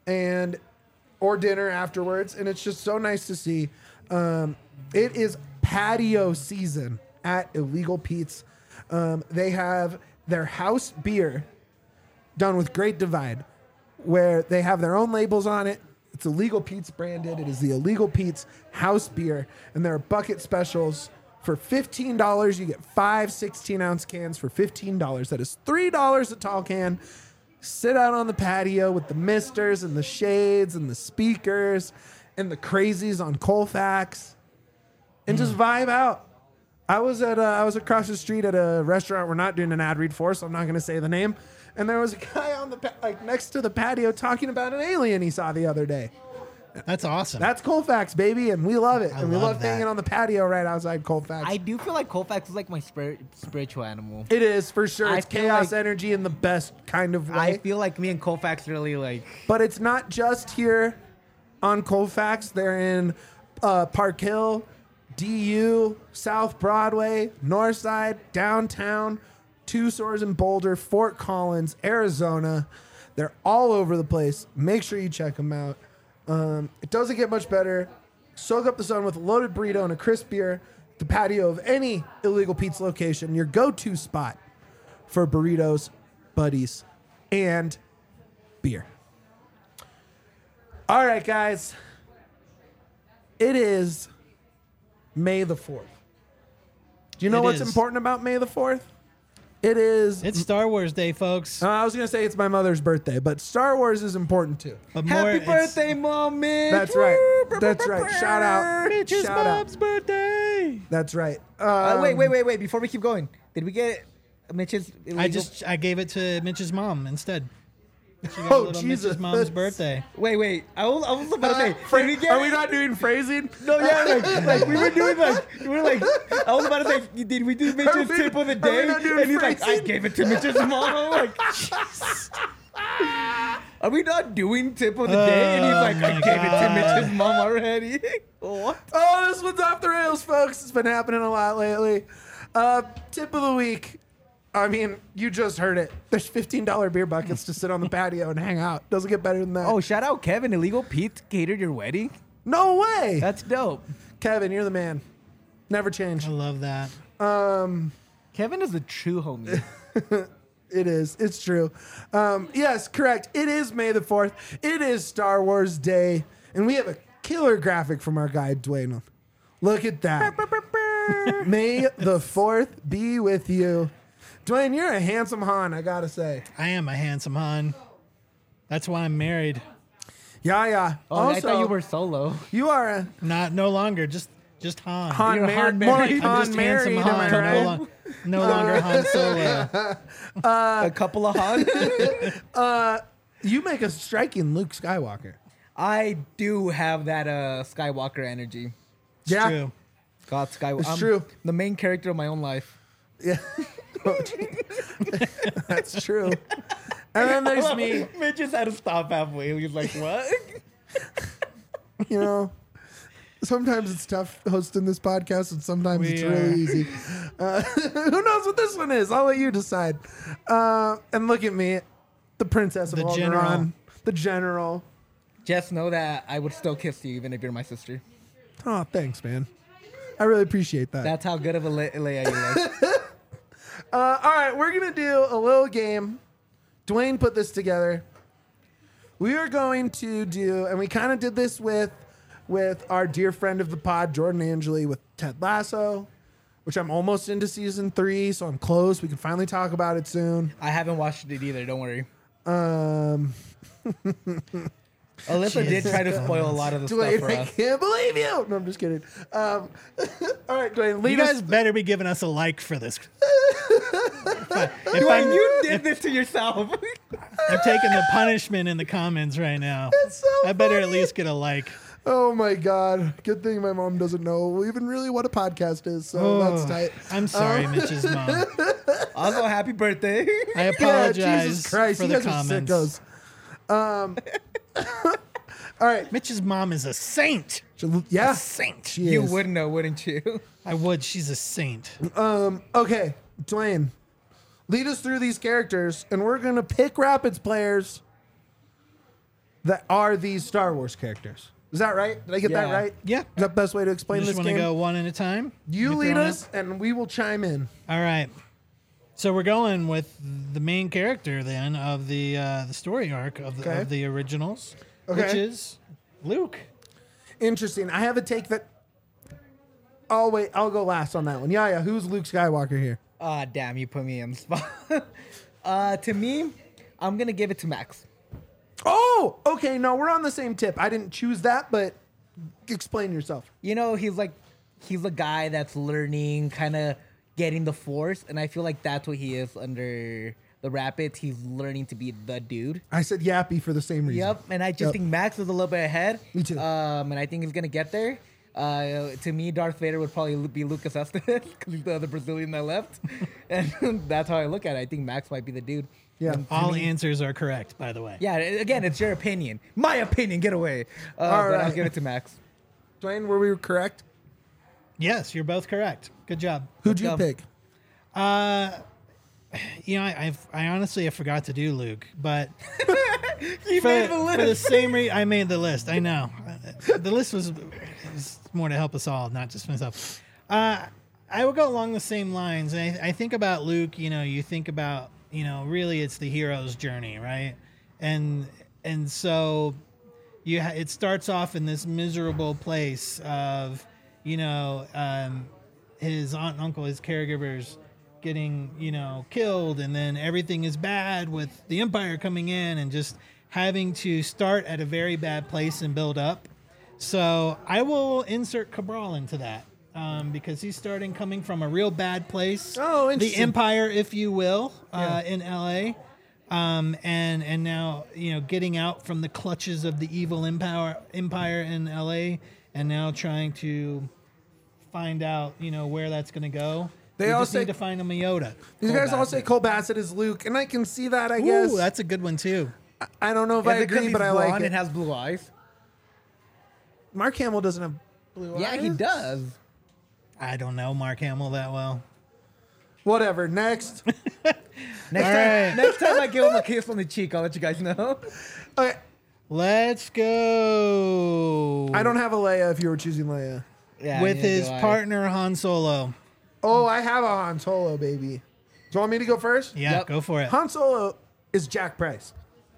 or dinner afterwards, and it's just so nice to see. It is patio season at Illegal Pete's. They have their house beer done with Great Divide, where they have their own labels on it. It's Illegal Pete's branded. It is the Illegal Pete's house beer, and there are bucket specials. For $15, you get 5 16-ounce cans for $15. That is $3 a tall can. Sit out on the patio with the misters and the shades and the speakers and the crazies on Colfax and just vibe out. I was across the street at a restaurant we're not doing an ad read for, so I'm not going to say the name. And there was a guy on the next to the patio talking about an alien he saw the other day. That's awesome. That's Colfax, baby, and we love it. I And we love love that. hanging on the patio right outside Colfax. I do feel like Colfax is like my spiritual animal. It is for sure. I It's feel chaos like- energy in the best kind of way. I feel like me and Colfax really like. But it's not just here on Colfax. They're in Park Hill, DU, South Broadway, Northside, downtown, 2 stores in Boulder, Fort Collins, Arizona. They're all over the place. Make sure you check them out. It doesn't get much better. Soak up the sun with a loaded burrito and a crisp beer. The patio of any Illegal Pete's location, your go-to spot for burritos, buddies, and beer. All right, guys. It is May the 4th. Do you know It what's is. important about May the 4th? It is. It's Star Wars Day, folks. I was going to say it's my mother's birthday, but Star Wars is important too. But more, Happy it's birthday, Mom, Mitch! That's right. That's right. Shout out. Mitch's Shout out. mom's birthday. That's right. Wait! Before we keep going, did we get Mitch's? Illegal... I gave it to Mitch's mom instead. She got Oh, a little Jesus. Mitch's mom's birthday. Wait. I was about to say. Did we get? Are we not doing phrasing? No, yeah, like we were doing I was about to say, did we do Mitch's we- tip of the are we day? not doing And he's like, I phrasing? gave it to Mitch's mom. I'm like, Jesus. Are we not doing tip of the day? And he's like, I my gave it to God. Mitch's mom already. What? Oh, this one's off the rails, folks. It's been happening a lot lately. Tip of the week. I mean, you just heard it. There's $15 beer buckets to sit on the patio and hang out. Doesn't get better than that. Oh, shout out Kevin. Illegal Pete catered your wedding. No way. That's dope. Kevin, you're the man. Never change. I love that. Kevin is a true homie. It is. It's true. Yes, correct. It is May the 4th. It is Star Wars Day. And we have a killer graphic from our guy, Dwayne. Look at that. May the 4th be with you. Dwayne, you're a handsome Han, I gotta say. I am a handsome Han. That's why I'm married. Yeah. Oh, I thought you were solo. You are a No longer. Just Han. Han You're married. Han More like married. I'm Han just married, handsome am I Han. right? No longer Han Solo. A couple of Han. You make a striking Luke Skywalker. I do have that Skywalker energy. It's Yeah. true. God, Skywalker. It's true. The main character of my own life. Yeah. That's true. And then there's me, Mitch just had to stop halfway. He was like, what? you know. Sometimes it's tough hosting this podcast, and sometimes We it's are. really easy. Who knows what this one is? I'll let you decide. And look at me, the princess of The Alderaan, general. the general. Just know that I would still kiss you even if you're my sister. Oh, thanks, man. I really appreciate that. That's how good of a Leia you like. All right, we're going to do a little game. Dwayne put this together. We are going to do, and we kind of did this with our dear friend of the pod, Jordan Angeli, with Ted Lasso. which I'm almost into season 3, so I'm close. We can finally talk about it soon. I haven't watched it either. Don't worry. Alyssa did Jesus try to spoil a lot of the stuff Dwayne, for I us. can't believe you. No, I'm just kidding. All right, Dwayne, You lead guys us. better be giving us a like for this. Dwayne, you did this to yourself. I'm taking the punishment in the comments right now. It's so I better at funny. least get a like. Oh my God. Good thing my mom doesn't know even really what a podcast is, so that's tight. I'm sorry, Mitch's mom. Also, happy birthday. I Yeah, apologize Jesus Christ, for you the guys are comments. sickos. All right. Mitch's mom is a saint. Yeah. A saint. She You is. would know, wouldn't you? I would. She's a saint. Okay, Dwayne, lead us through these characters, and we're going to pick Rapids players that are these Star Wars characters. Is that right? Did I get that Yeah. right? Yeah. Is that the best way to explain Just this want to game? go one at a time? You lead throwing us, and we will chime in. All right. So we're going with the main character then of the story arc of Okay. the originals, Okay. which is Luke. Interesting. I have a take that. Oh, wait. I'll go last on that one. Yeah. Who's Luke Skywalker here? Ah, damn, you put me in the spot. To me, I'm going to give it to Max. Oh, okay. No, we're on the same tip. I didn't choose that, but explain yourself. You know, he's a guy that's learning, kind of getting the Force, and I feel like that's what he is under the Rapids. He's learning to be the dude. I said yappy for the same reason. Yep, and I just Yep. think Max is a little bit ahead. Me too. And I think he's gonna get there. To me, Darth Vader would probably be Lucas Estes because he's the other Brazilian that left, and that's how I look at it. I think Max might be the dude. Yeah. And to All me- answers are correct, by the way. Yeah. Again, it's your opinion. My opinion. Get away. All But I'll right. give it to Max. Dwayne, were we correct? Yes, you're both correct. Good job. Who'd you go. pick? You know, I honestly I forgot to do Luke, but He for, made the for the list. same reason I made the list. I know the list was more to help us all, not just myself. I would go along the same lines. I think about Luke. You know, you think about really it's the hero's journey, right? And so it starts off in this miserable place of his aunt and uncle, his caregivers getting killed, and then everything is bad with the Empire coming in and just having to start at a very bad place and build up. So I will insert Cabral into that because he's coming from a real bad place. Oh, the interesting. Empire, if you will, in LA. And now getting out from the clutches of the evil empire in LA, and now trying to find out where that's going to go. They We all just say- need to find him a Yoda. These guys all say Cole Bassett is Luke, and I can see that, I guess. Ooh, that's a good one too. I don't know if I Is it 'cause agree, he's but I blonde like it. and has blue eyes. Mark Hamill doesn't have blue eyes. Yeah, he does. I don't know Mark Hamill that well. Whatever. Next. Next time I give him a kiss on the cheek, I'll let you guys know. Okay. Let's go. I don't have a Leia if you were choosing Leia. Yeah, with neither his do I. partner Han Solo. Oh, I have a Han Solo, baby. Do you want me to go first? Yeah, Yep. go for it. Han Solo is Jack Price.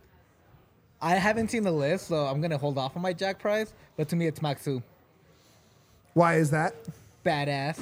I haven't seen the list, so I'm gonna hold off on my Jack Price. But to me, it's Maxu. Why is that? Badass.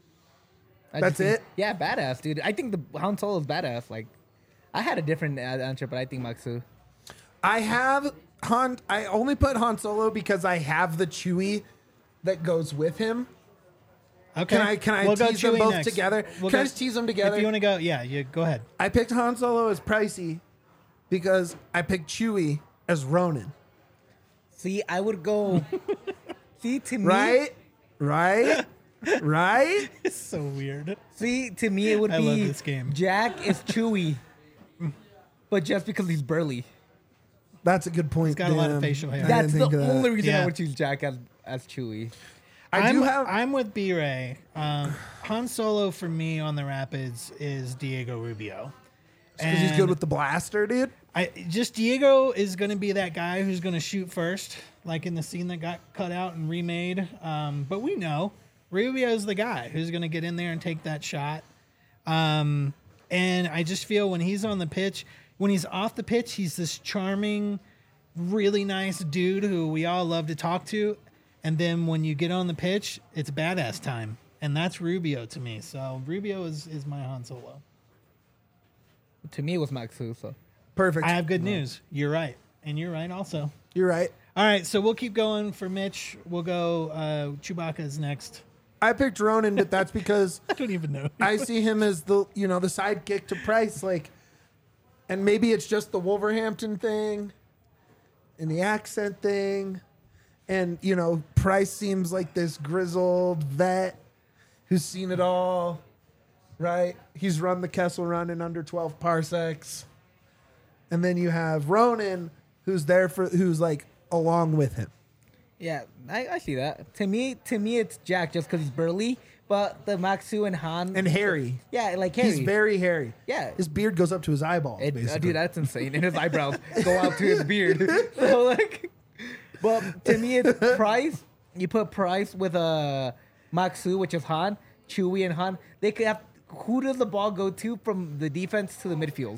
I That's just think- it? Yeah, badass, dude. I think the Han Solo is badass. Like, I had a different answer, but I think Maxu. I have Han. I only put Han Solo because I have the Chewie that goes with him. Okay. Can I We'll go tease them Chewie both next. together? We'll Can I go- just tease them together? If you want to go, yeah, you go ahead. I picked Han Solo as Pricey because I picked Chewie as Ronin. See, I would go. See, to me, Right? Right? Right? It's so weird. See, to me, it would I be love this game. Jack is Chewy, but just because he's burly. That's a good point. He's got a lot of damn. facial hair. I That's didn't the think of that. only reason I Yeah. would choose Jack as Chewy. I'm with B-Ray. Han Solo for me on the Rapids is Diego Rubio. Because he's good with the blaster, dude. Diego is going to be that guy who's going to shoot first, like in the scene that got cut out and remade. But we know Rubio's the guy who's going to get in there and take that shot. And I just feel when he's on the pitch, when he's off the pitch, he's this charming, really nice dude who we all love to talk to. And then when you get on the pitch, it's badass time. and that's Rubio to me. So Rubio is my Han Solo. To me, it was Maxu. So Perfect. I have good news. You're right, and you're right also. You're right. All right, so we'll keep going for Mitch. We'll go. Chewbacca's next. I picked Ronan, but that's because I don't even know. I see him as the the sidekick to Price, like, and maybe it's just the Wolverhampton thing, and the accent thing, and Price seems like this grizzled vet who's seen it all, right? He's run the Kessel Run in under 12 parsecs, and then you have Ronan, who's like along with him. yeah, I see that. To me, it's Jack just because he's burly. But the Maxu and Han And hairy. yeah, like Harry. He's very hairy. Yeah. His beard goes up to his eyeballs, basically. Dude, that's insane. And his eyebrows go out to his beard. So like, but to me, it's Price. You put Price with Maxu, which is Han, Chewie, and Han. They could have. Who does the ball go to from the defense to the midfield?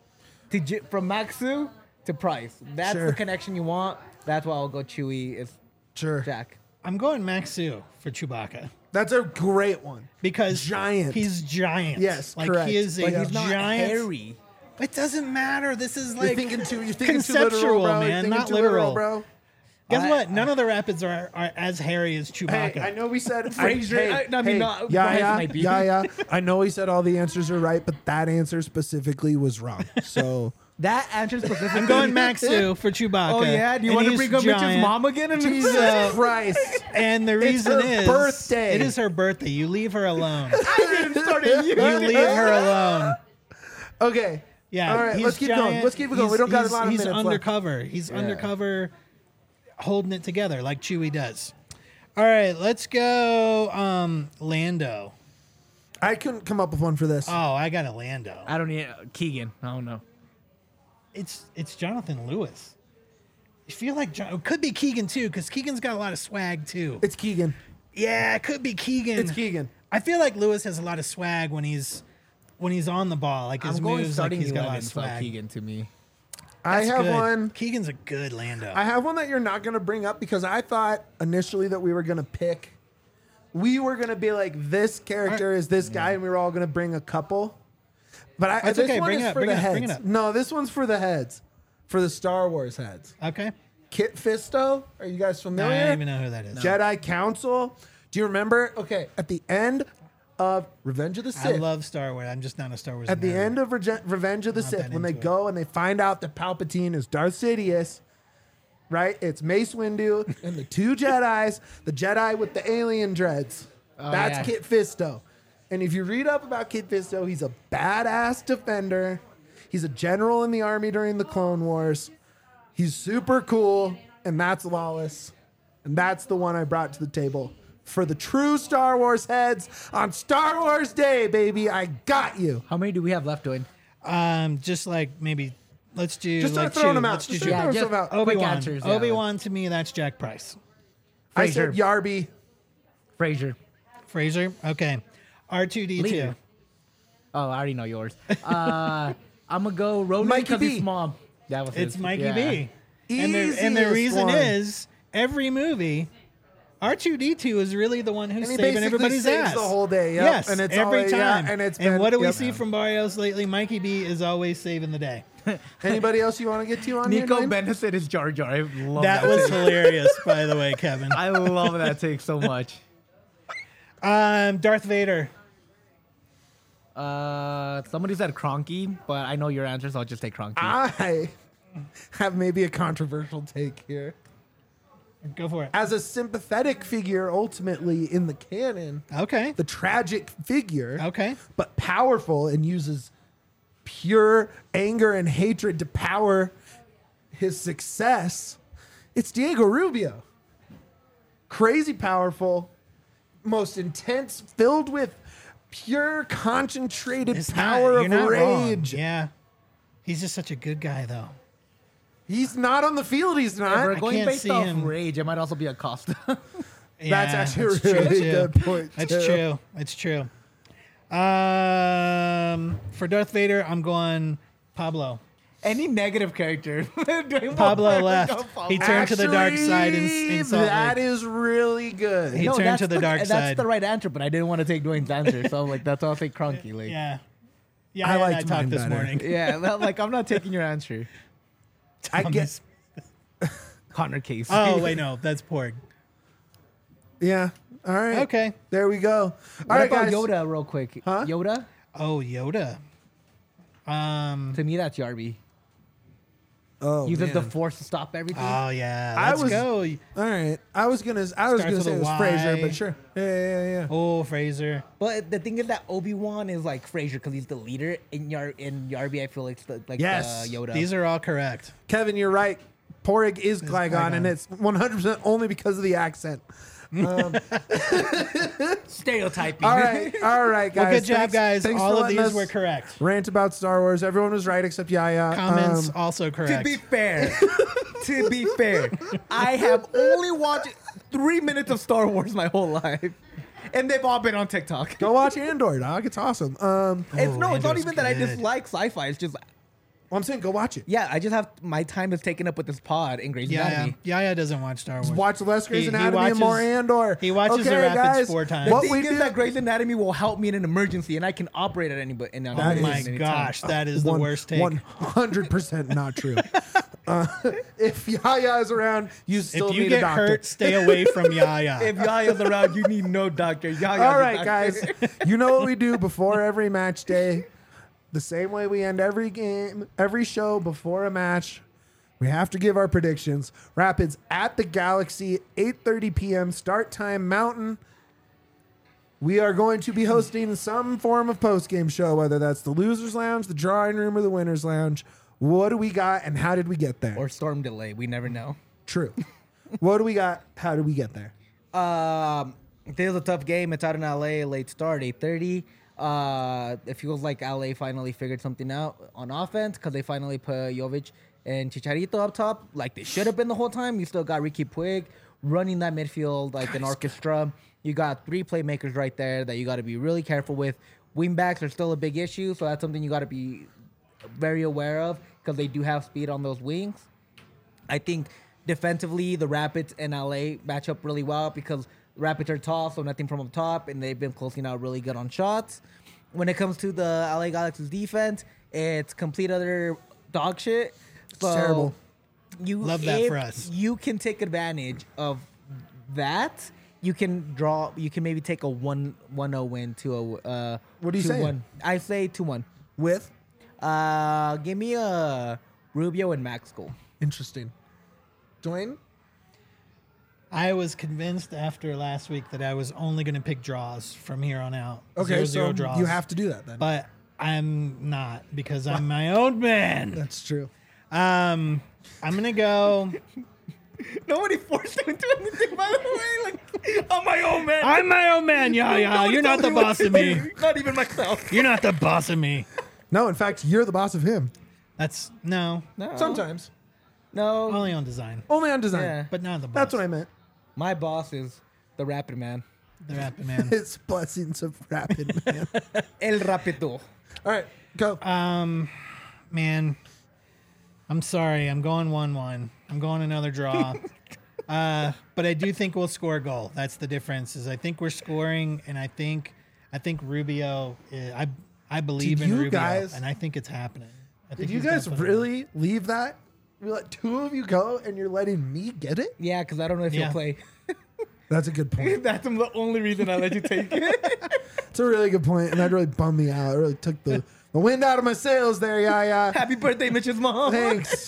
From Maxu to Price. That's Sure. the connection you want. That's why I'll go Chewie. Is Sure. Jack. I'm going Maxu for Chewbacca That's a great one. because Giant. He's giant. Yes, like correct. he is a But he's not giant. hairy. It doesn't matter. This is You're like thinking too literal, conceptual, bro. You're man, thinking not too literal. bro. Guess what? None of the rapids are as hairy as Chewbacca. Hey, I know we said Fraser- I mean, hey, not- yeah, Bryce yeah, might be. yeah. I know he said all the answers are right, but that answer specifically was wrong. So That answer specifically. I'm going Maxu for Chewbacca. Oh yeah, do you and want to he's bring up Mitch's giant. mom again? And Jesus Christ. And the It's reason her is birthday. It is her birthday. You leave her alone. I didn't start it. You leave her alone. Okay. Yeah. All right, he's let's keep going. giant. Let's keep it going. We don't got a lot of He's minutes left. undercover. He's undercover, holding it together like Chewie does. All right, let's go. Lando. I couldn't come up with one for this. Oh, I got a Lando. I don't need Keegan. I don't know. It's Jonathan Lewis. I feel like it could be Keegan too, because Keegan's got a lot of swag too. It's Keegan. Yeah, it could be Keegan. It's Keegan. I feel like Lewis has a lot of swag when he's on the ball. Like his I'm going moves, like starting he's got a lot 11, of so swag. Keegan to me. I That's have good. one. Keegan's a good Lando. I have one that you're not going to bring up because I thought initially that we were going to pick. We were going to be like, this character is this guy, and we were all going to bring a couple. But That's this okay. one Bring is it up, for bring the it up, heads. bring it up. No, this one's for the heads, for the Star Wars heads. Okay. Kit Fisto, are you guys No, familiar? I don't even know who that is. Jedi Council. Do you remember? Okay, at the end of Revenge of the I Sith. love Star Wars. I'm just not a Star Wars. At the nerd. end of Revenge of the Not Sith, that when they into it. go and they find out that Palpatine is Darth Sidious, right? It's Mace Windu and the two Jedis, the Jedi with the alien dreads. That's yeah. Kit Fisto. And if you read up about Kit Fisto, he's a badass defender. He's a general in the army during the Clone Wars. He's super cool, and that's Lawless. And that's the one I brought to the table. For the true Star Wars heads on Star Wars Day, baby, I got you. How many do we have left, Dwayne? Just like maybe let's do Just start like throwing two. them out. Let's do Just two. start throwing just- stuff out. Quick Obi-Wan. answers, yeah. Obi-Wan to me, that's Jack Price. I said Yarby. Fraser. Fraser. Okay. R2D2. Leader. Oh, I already know yours. I'm gonna go Ronan Mikey because B. he's mom. That was It's his. Mikey Yeah. B. And the Easiest reason one. is every movie, R2D2 is really the one who's And he saving basically everybody's saves ass the whole day, yep. Yes, And it's every always- yeah, time. and it's been- what do we yep. see from Barrios lately? Mikey B is always saving the day. Anybody else you want to get to on Nico here? Dwayne? Bennett is Jar Jar. I love That was hilarious, by the way, Kevin. I love that take so much. Darth Vader. Somebody said Cronky, but I know your answer, so I'll just take Cronky. I have maybe a controversial take here. Go for it. As a sympathetic figure, ultimately in the canon, Okay. the tragic figure, Okay. but powerful and uses pure anger and hatred to power his success, it's Diego Rubio. Crazy powerful, most intense, filled with pure concentrated It's power you're of not wrong. rage. Yeah. He's just such a good guy, though. He's not on the field, he's If not. we're going can't based see off him. rage, it might also be a Costa. That's actually a true, really too. good point, That's too. true. It's true. For Darth Vader, I'm going Pablo. Any negative character. Pablo left. He turned to the dark side in Salt That Lake. is really good. He turned to the dark That's side. the right answer, but I didn't want to take Dwayne's answer, so like that's why I'll say Cronky. Like, Yeah. Yeah, I I liked talked mine this better. morning. yeah, well, like I'm not taking your answer. I guess. Connor Case. Oh, wait, no. That's Porg. Yeah. All right. Okay. There we go. All What right, about guys. Yoda, real quick? Huh? Yoda. Oh, Yoda. To me, that's Yarby. Oh, Uses the man. Force to stop everything. Oh, yeah. I Let's was- go. All right. I was gonna Starts say with it a was Y. Fraser, but sure. Yeah. Oh, Fraser. But the thing is that Obi-Wan is like Fraser because he's the leader. In Yarby, I feel like it's like Yes. Yoda. These are all correct. Kevin, you're right. Porrig is Qui-Gon, and Qui-Gon. it's 100% only because of the accent. stereotyping. All right, guys. Well, good job, Thanks- guys. thanks All for of letting these us were correct. Rant about Star Wars. Everyone was right except Yaya. Comments also To correct. be fair, I have only watched 3 minutes of Star Wars my whole life, and they've all been on TikTok. Go watch Andor, dog. It's awesome. It's not Andor's even that I good. dislike sci-fi. It's just I'm saying go watch it. I just have my time is taken up with this pod and Grey's Anatomy. Yaya doesn't watch Star Wars. Watch less Grey's He Anatomy and more watches- Andor. he watches the Rapids 4 times. What The we thing do is that Grey's Anatomy will help me in an emergency, and I can operate at any. That Oh is- my anytime. gosh, that is the worst take. 100% not true. If Yaya is around, you still If you need a get doctor. hurt, stay away from Yaya. If Yaya's around, you need no doctor. Yaya's All a right, doctor. guys. You know what we do before every match day? The same way we end every game, every show before a match. We have to give our predictions. Rapids at the Galaxy, 8:30 p.m. start time Mountain. We are going to be hosting some form of post-game show, whether that's the Losers Lounge, the Drawing Room, or the Winners Lounge. What do we got, and how did we get there? Or storm delay. We never know. True. What do we got? How did we get there? This is a tough game. It's out in LA, late start, 8:30. It feels like LA finally figured something out on offense because they finally put Jovic and Chicharito up top like they should have been the whole time. You still got Ricky Puig running that midfield like an orchestra. You got 3 playmakers right there that you got to be really careful with. Wingbacks are still a big issue, so that's something you got to be very aware of because they do have speed on those wings. I think defensively, the Rapids and LA match up really well because Rapids are tall, so nothing from up top, and they've been closing out really good on shots. When it comes to the LA Galaxy's defense, it's complete other dog shit. So terrible. Love that if for us. You can take advantage of that. You can maybe take a 1-0 win to a What are you 2-1. saying? I say 2-1. With? Give me a Rubio and Max goal. Interesting. Dwayne? I was convinced after last week that I was only going to pick draws from here on out. Okay, 0-0 so draws. you have to do that then. But I'm not because I'm my own man. That's true. I'm going to go. Nobody forced him into anything, by the way. Like, I'm my own man. I'm my own man, Yaya. Nobody You're not told the me what boss to of me. do. Not even myself. You're not the boss of me. No, in fact, you're the boss of him. That's no. No. Sometimes. No. Only on design, Only on design. Yeah. but not the boss. That's what I meant. My boss is the Rapid Man. The Rapid Man. It's blessings of rapid, man. El Rapido. All right, go. Man, I'm sorry. I'm going 1-1. I'm going another draw. But I do think we'll score a goal. That's the difference. Is I think we're scoring, and I think Rubio. I believe Did in you Rubio, guys- and I think it's happening. I think Did you he's guys gonna put it really leave that? You let 2 of you go, and you're letting me get it? Yeah, because I don't know if Yeah. you'll play. That's a good point. That's the only reason I let you take it. It's a really good point, and that really bummed me out. It really took the wind out of my sails there, Yaya. Happy birthday, Mitch's mom. Thanks.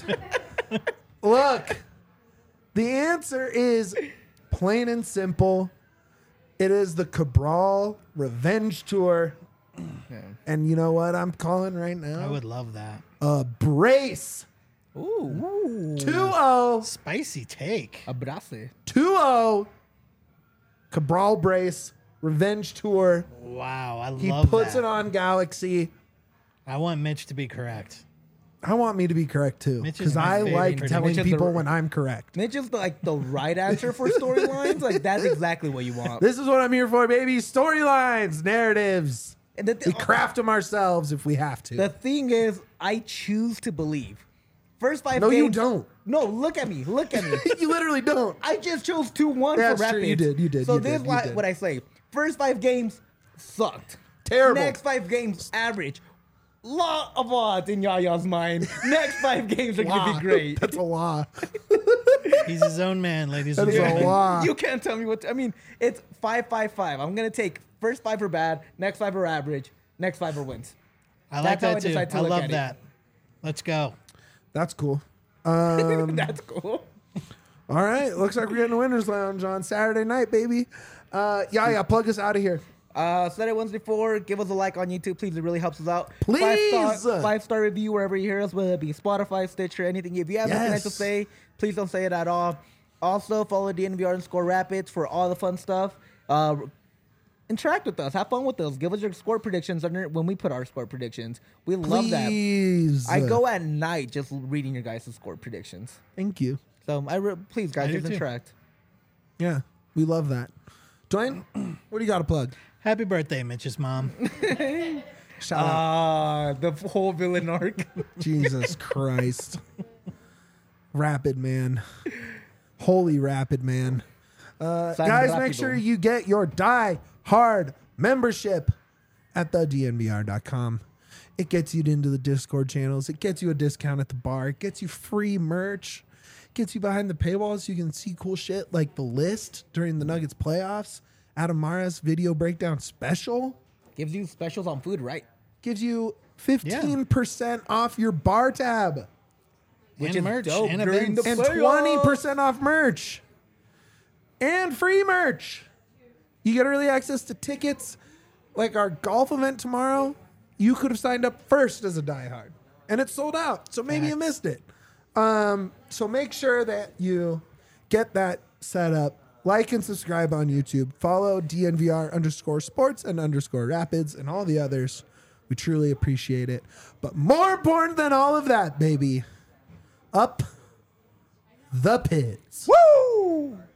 Look, the answer is plain and simple. It is the Cabral Revenge Tour. And you know what I'm calling right in. I now? would love that. A brace. Ooh. 2-0. Spicy take. Abrace. 2-0. Cabral brace. Revenge Tour. Wow, I He love puts that. it on Galaxy. I want Mitch to be correct. I want me to be correct too, Mitch is because my I favorite like prediction. telling Mitch is the- people when I'm correct. Mitch is like the right answer for storylines. Like that's exactly what you want. This is what I'm here for, baby. Storylines, narratives. And We craft them ourselves if we have to. the thing is, I choose to believe. First 5 No, games. you don't. No, look at me. Look at me. You literally don't. I just chose 2-1 That's for true. Rapids. You did, you did, So you this did, is you did. what I say. First 5 games sucked. Terrible. Next 5 games average. Lot of odds in Yaya's mind. Next 5 games are gonna Law. be great. That's a law. He's his own man, ladies That and is a gentlemen. law. You can't tell me what. I mean, it's 5-5-5. I'm gonna take first 5 are bad, next 5 are average, next 5 are wins. I like That's how I that too. decide to I look love at it. that. Let's go. That's cool. That's cool. All right. Looks like we're getting a winner's lounge on Saturday night, baby. Yeah, plug us out of here. Said it once before. Give us a like on YouTube, please. It really helps us out. Please! 5-star review wherever you hear us, whether it be Spotify, Stitcher, anything. If you have anything nice to Yes. say, please don't say it at all. Also, follow DNVR_Rapids for all the fun stuff. Interact with us. Have fun with us. Give us your score predictions when we put our score predictions. We love that. Please. I go at night just reading your guys' score predictions. Thank you. So please, guys, I do just too. interact. Yeah, we love that. Dwayne, what do you got to plug? Happy birthday, Mitch's mom. Shout out. The whole villain arc. Jesus Christ. Rapid man. Holy rapid man. Guys, make sure you get your Die Hard membership at thednvr.com. It gets you into the Discord channels. It gets you a discount at the bar. It gets you free merch. It gets you behind the paywall so you can see cool shit like the list during the Nuggets playoffs. Adam Mara's video breakdown special. Gives you specials on food, right? Gives you 15% off your bar tab. Which And is merch dope and during events. the And playoffs. 20% off merch. And free merch. You get early access to tickets. Like our golf event tomorrow, you could have signed up first as a diehard. And it's sold out. So maybe you missed it. So make sure that you get that set up. Like and subscribe on YouTube. Follow DNVR_sports and _rapids and all the others. We truly appreciate it. But more important than all of that, baby, up the pits. Woo!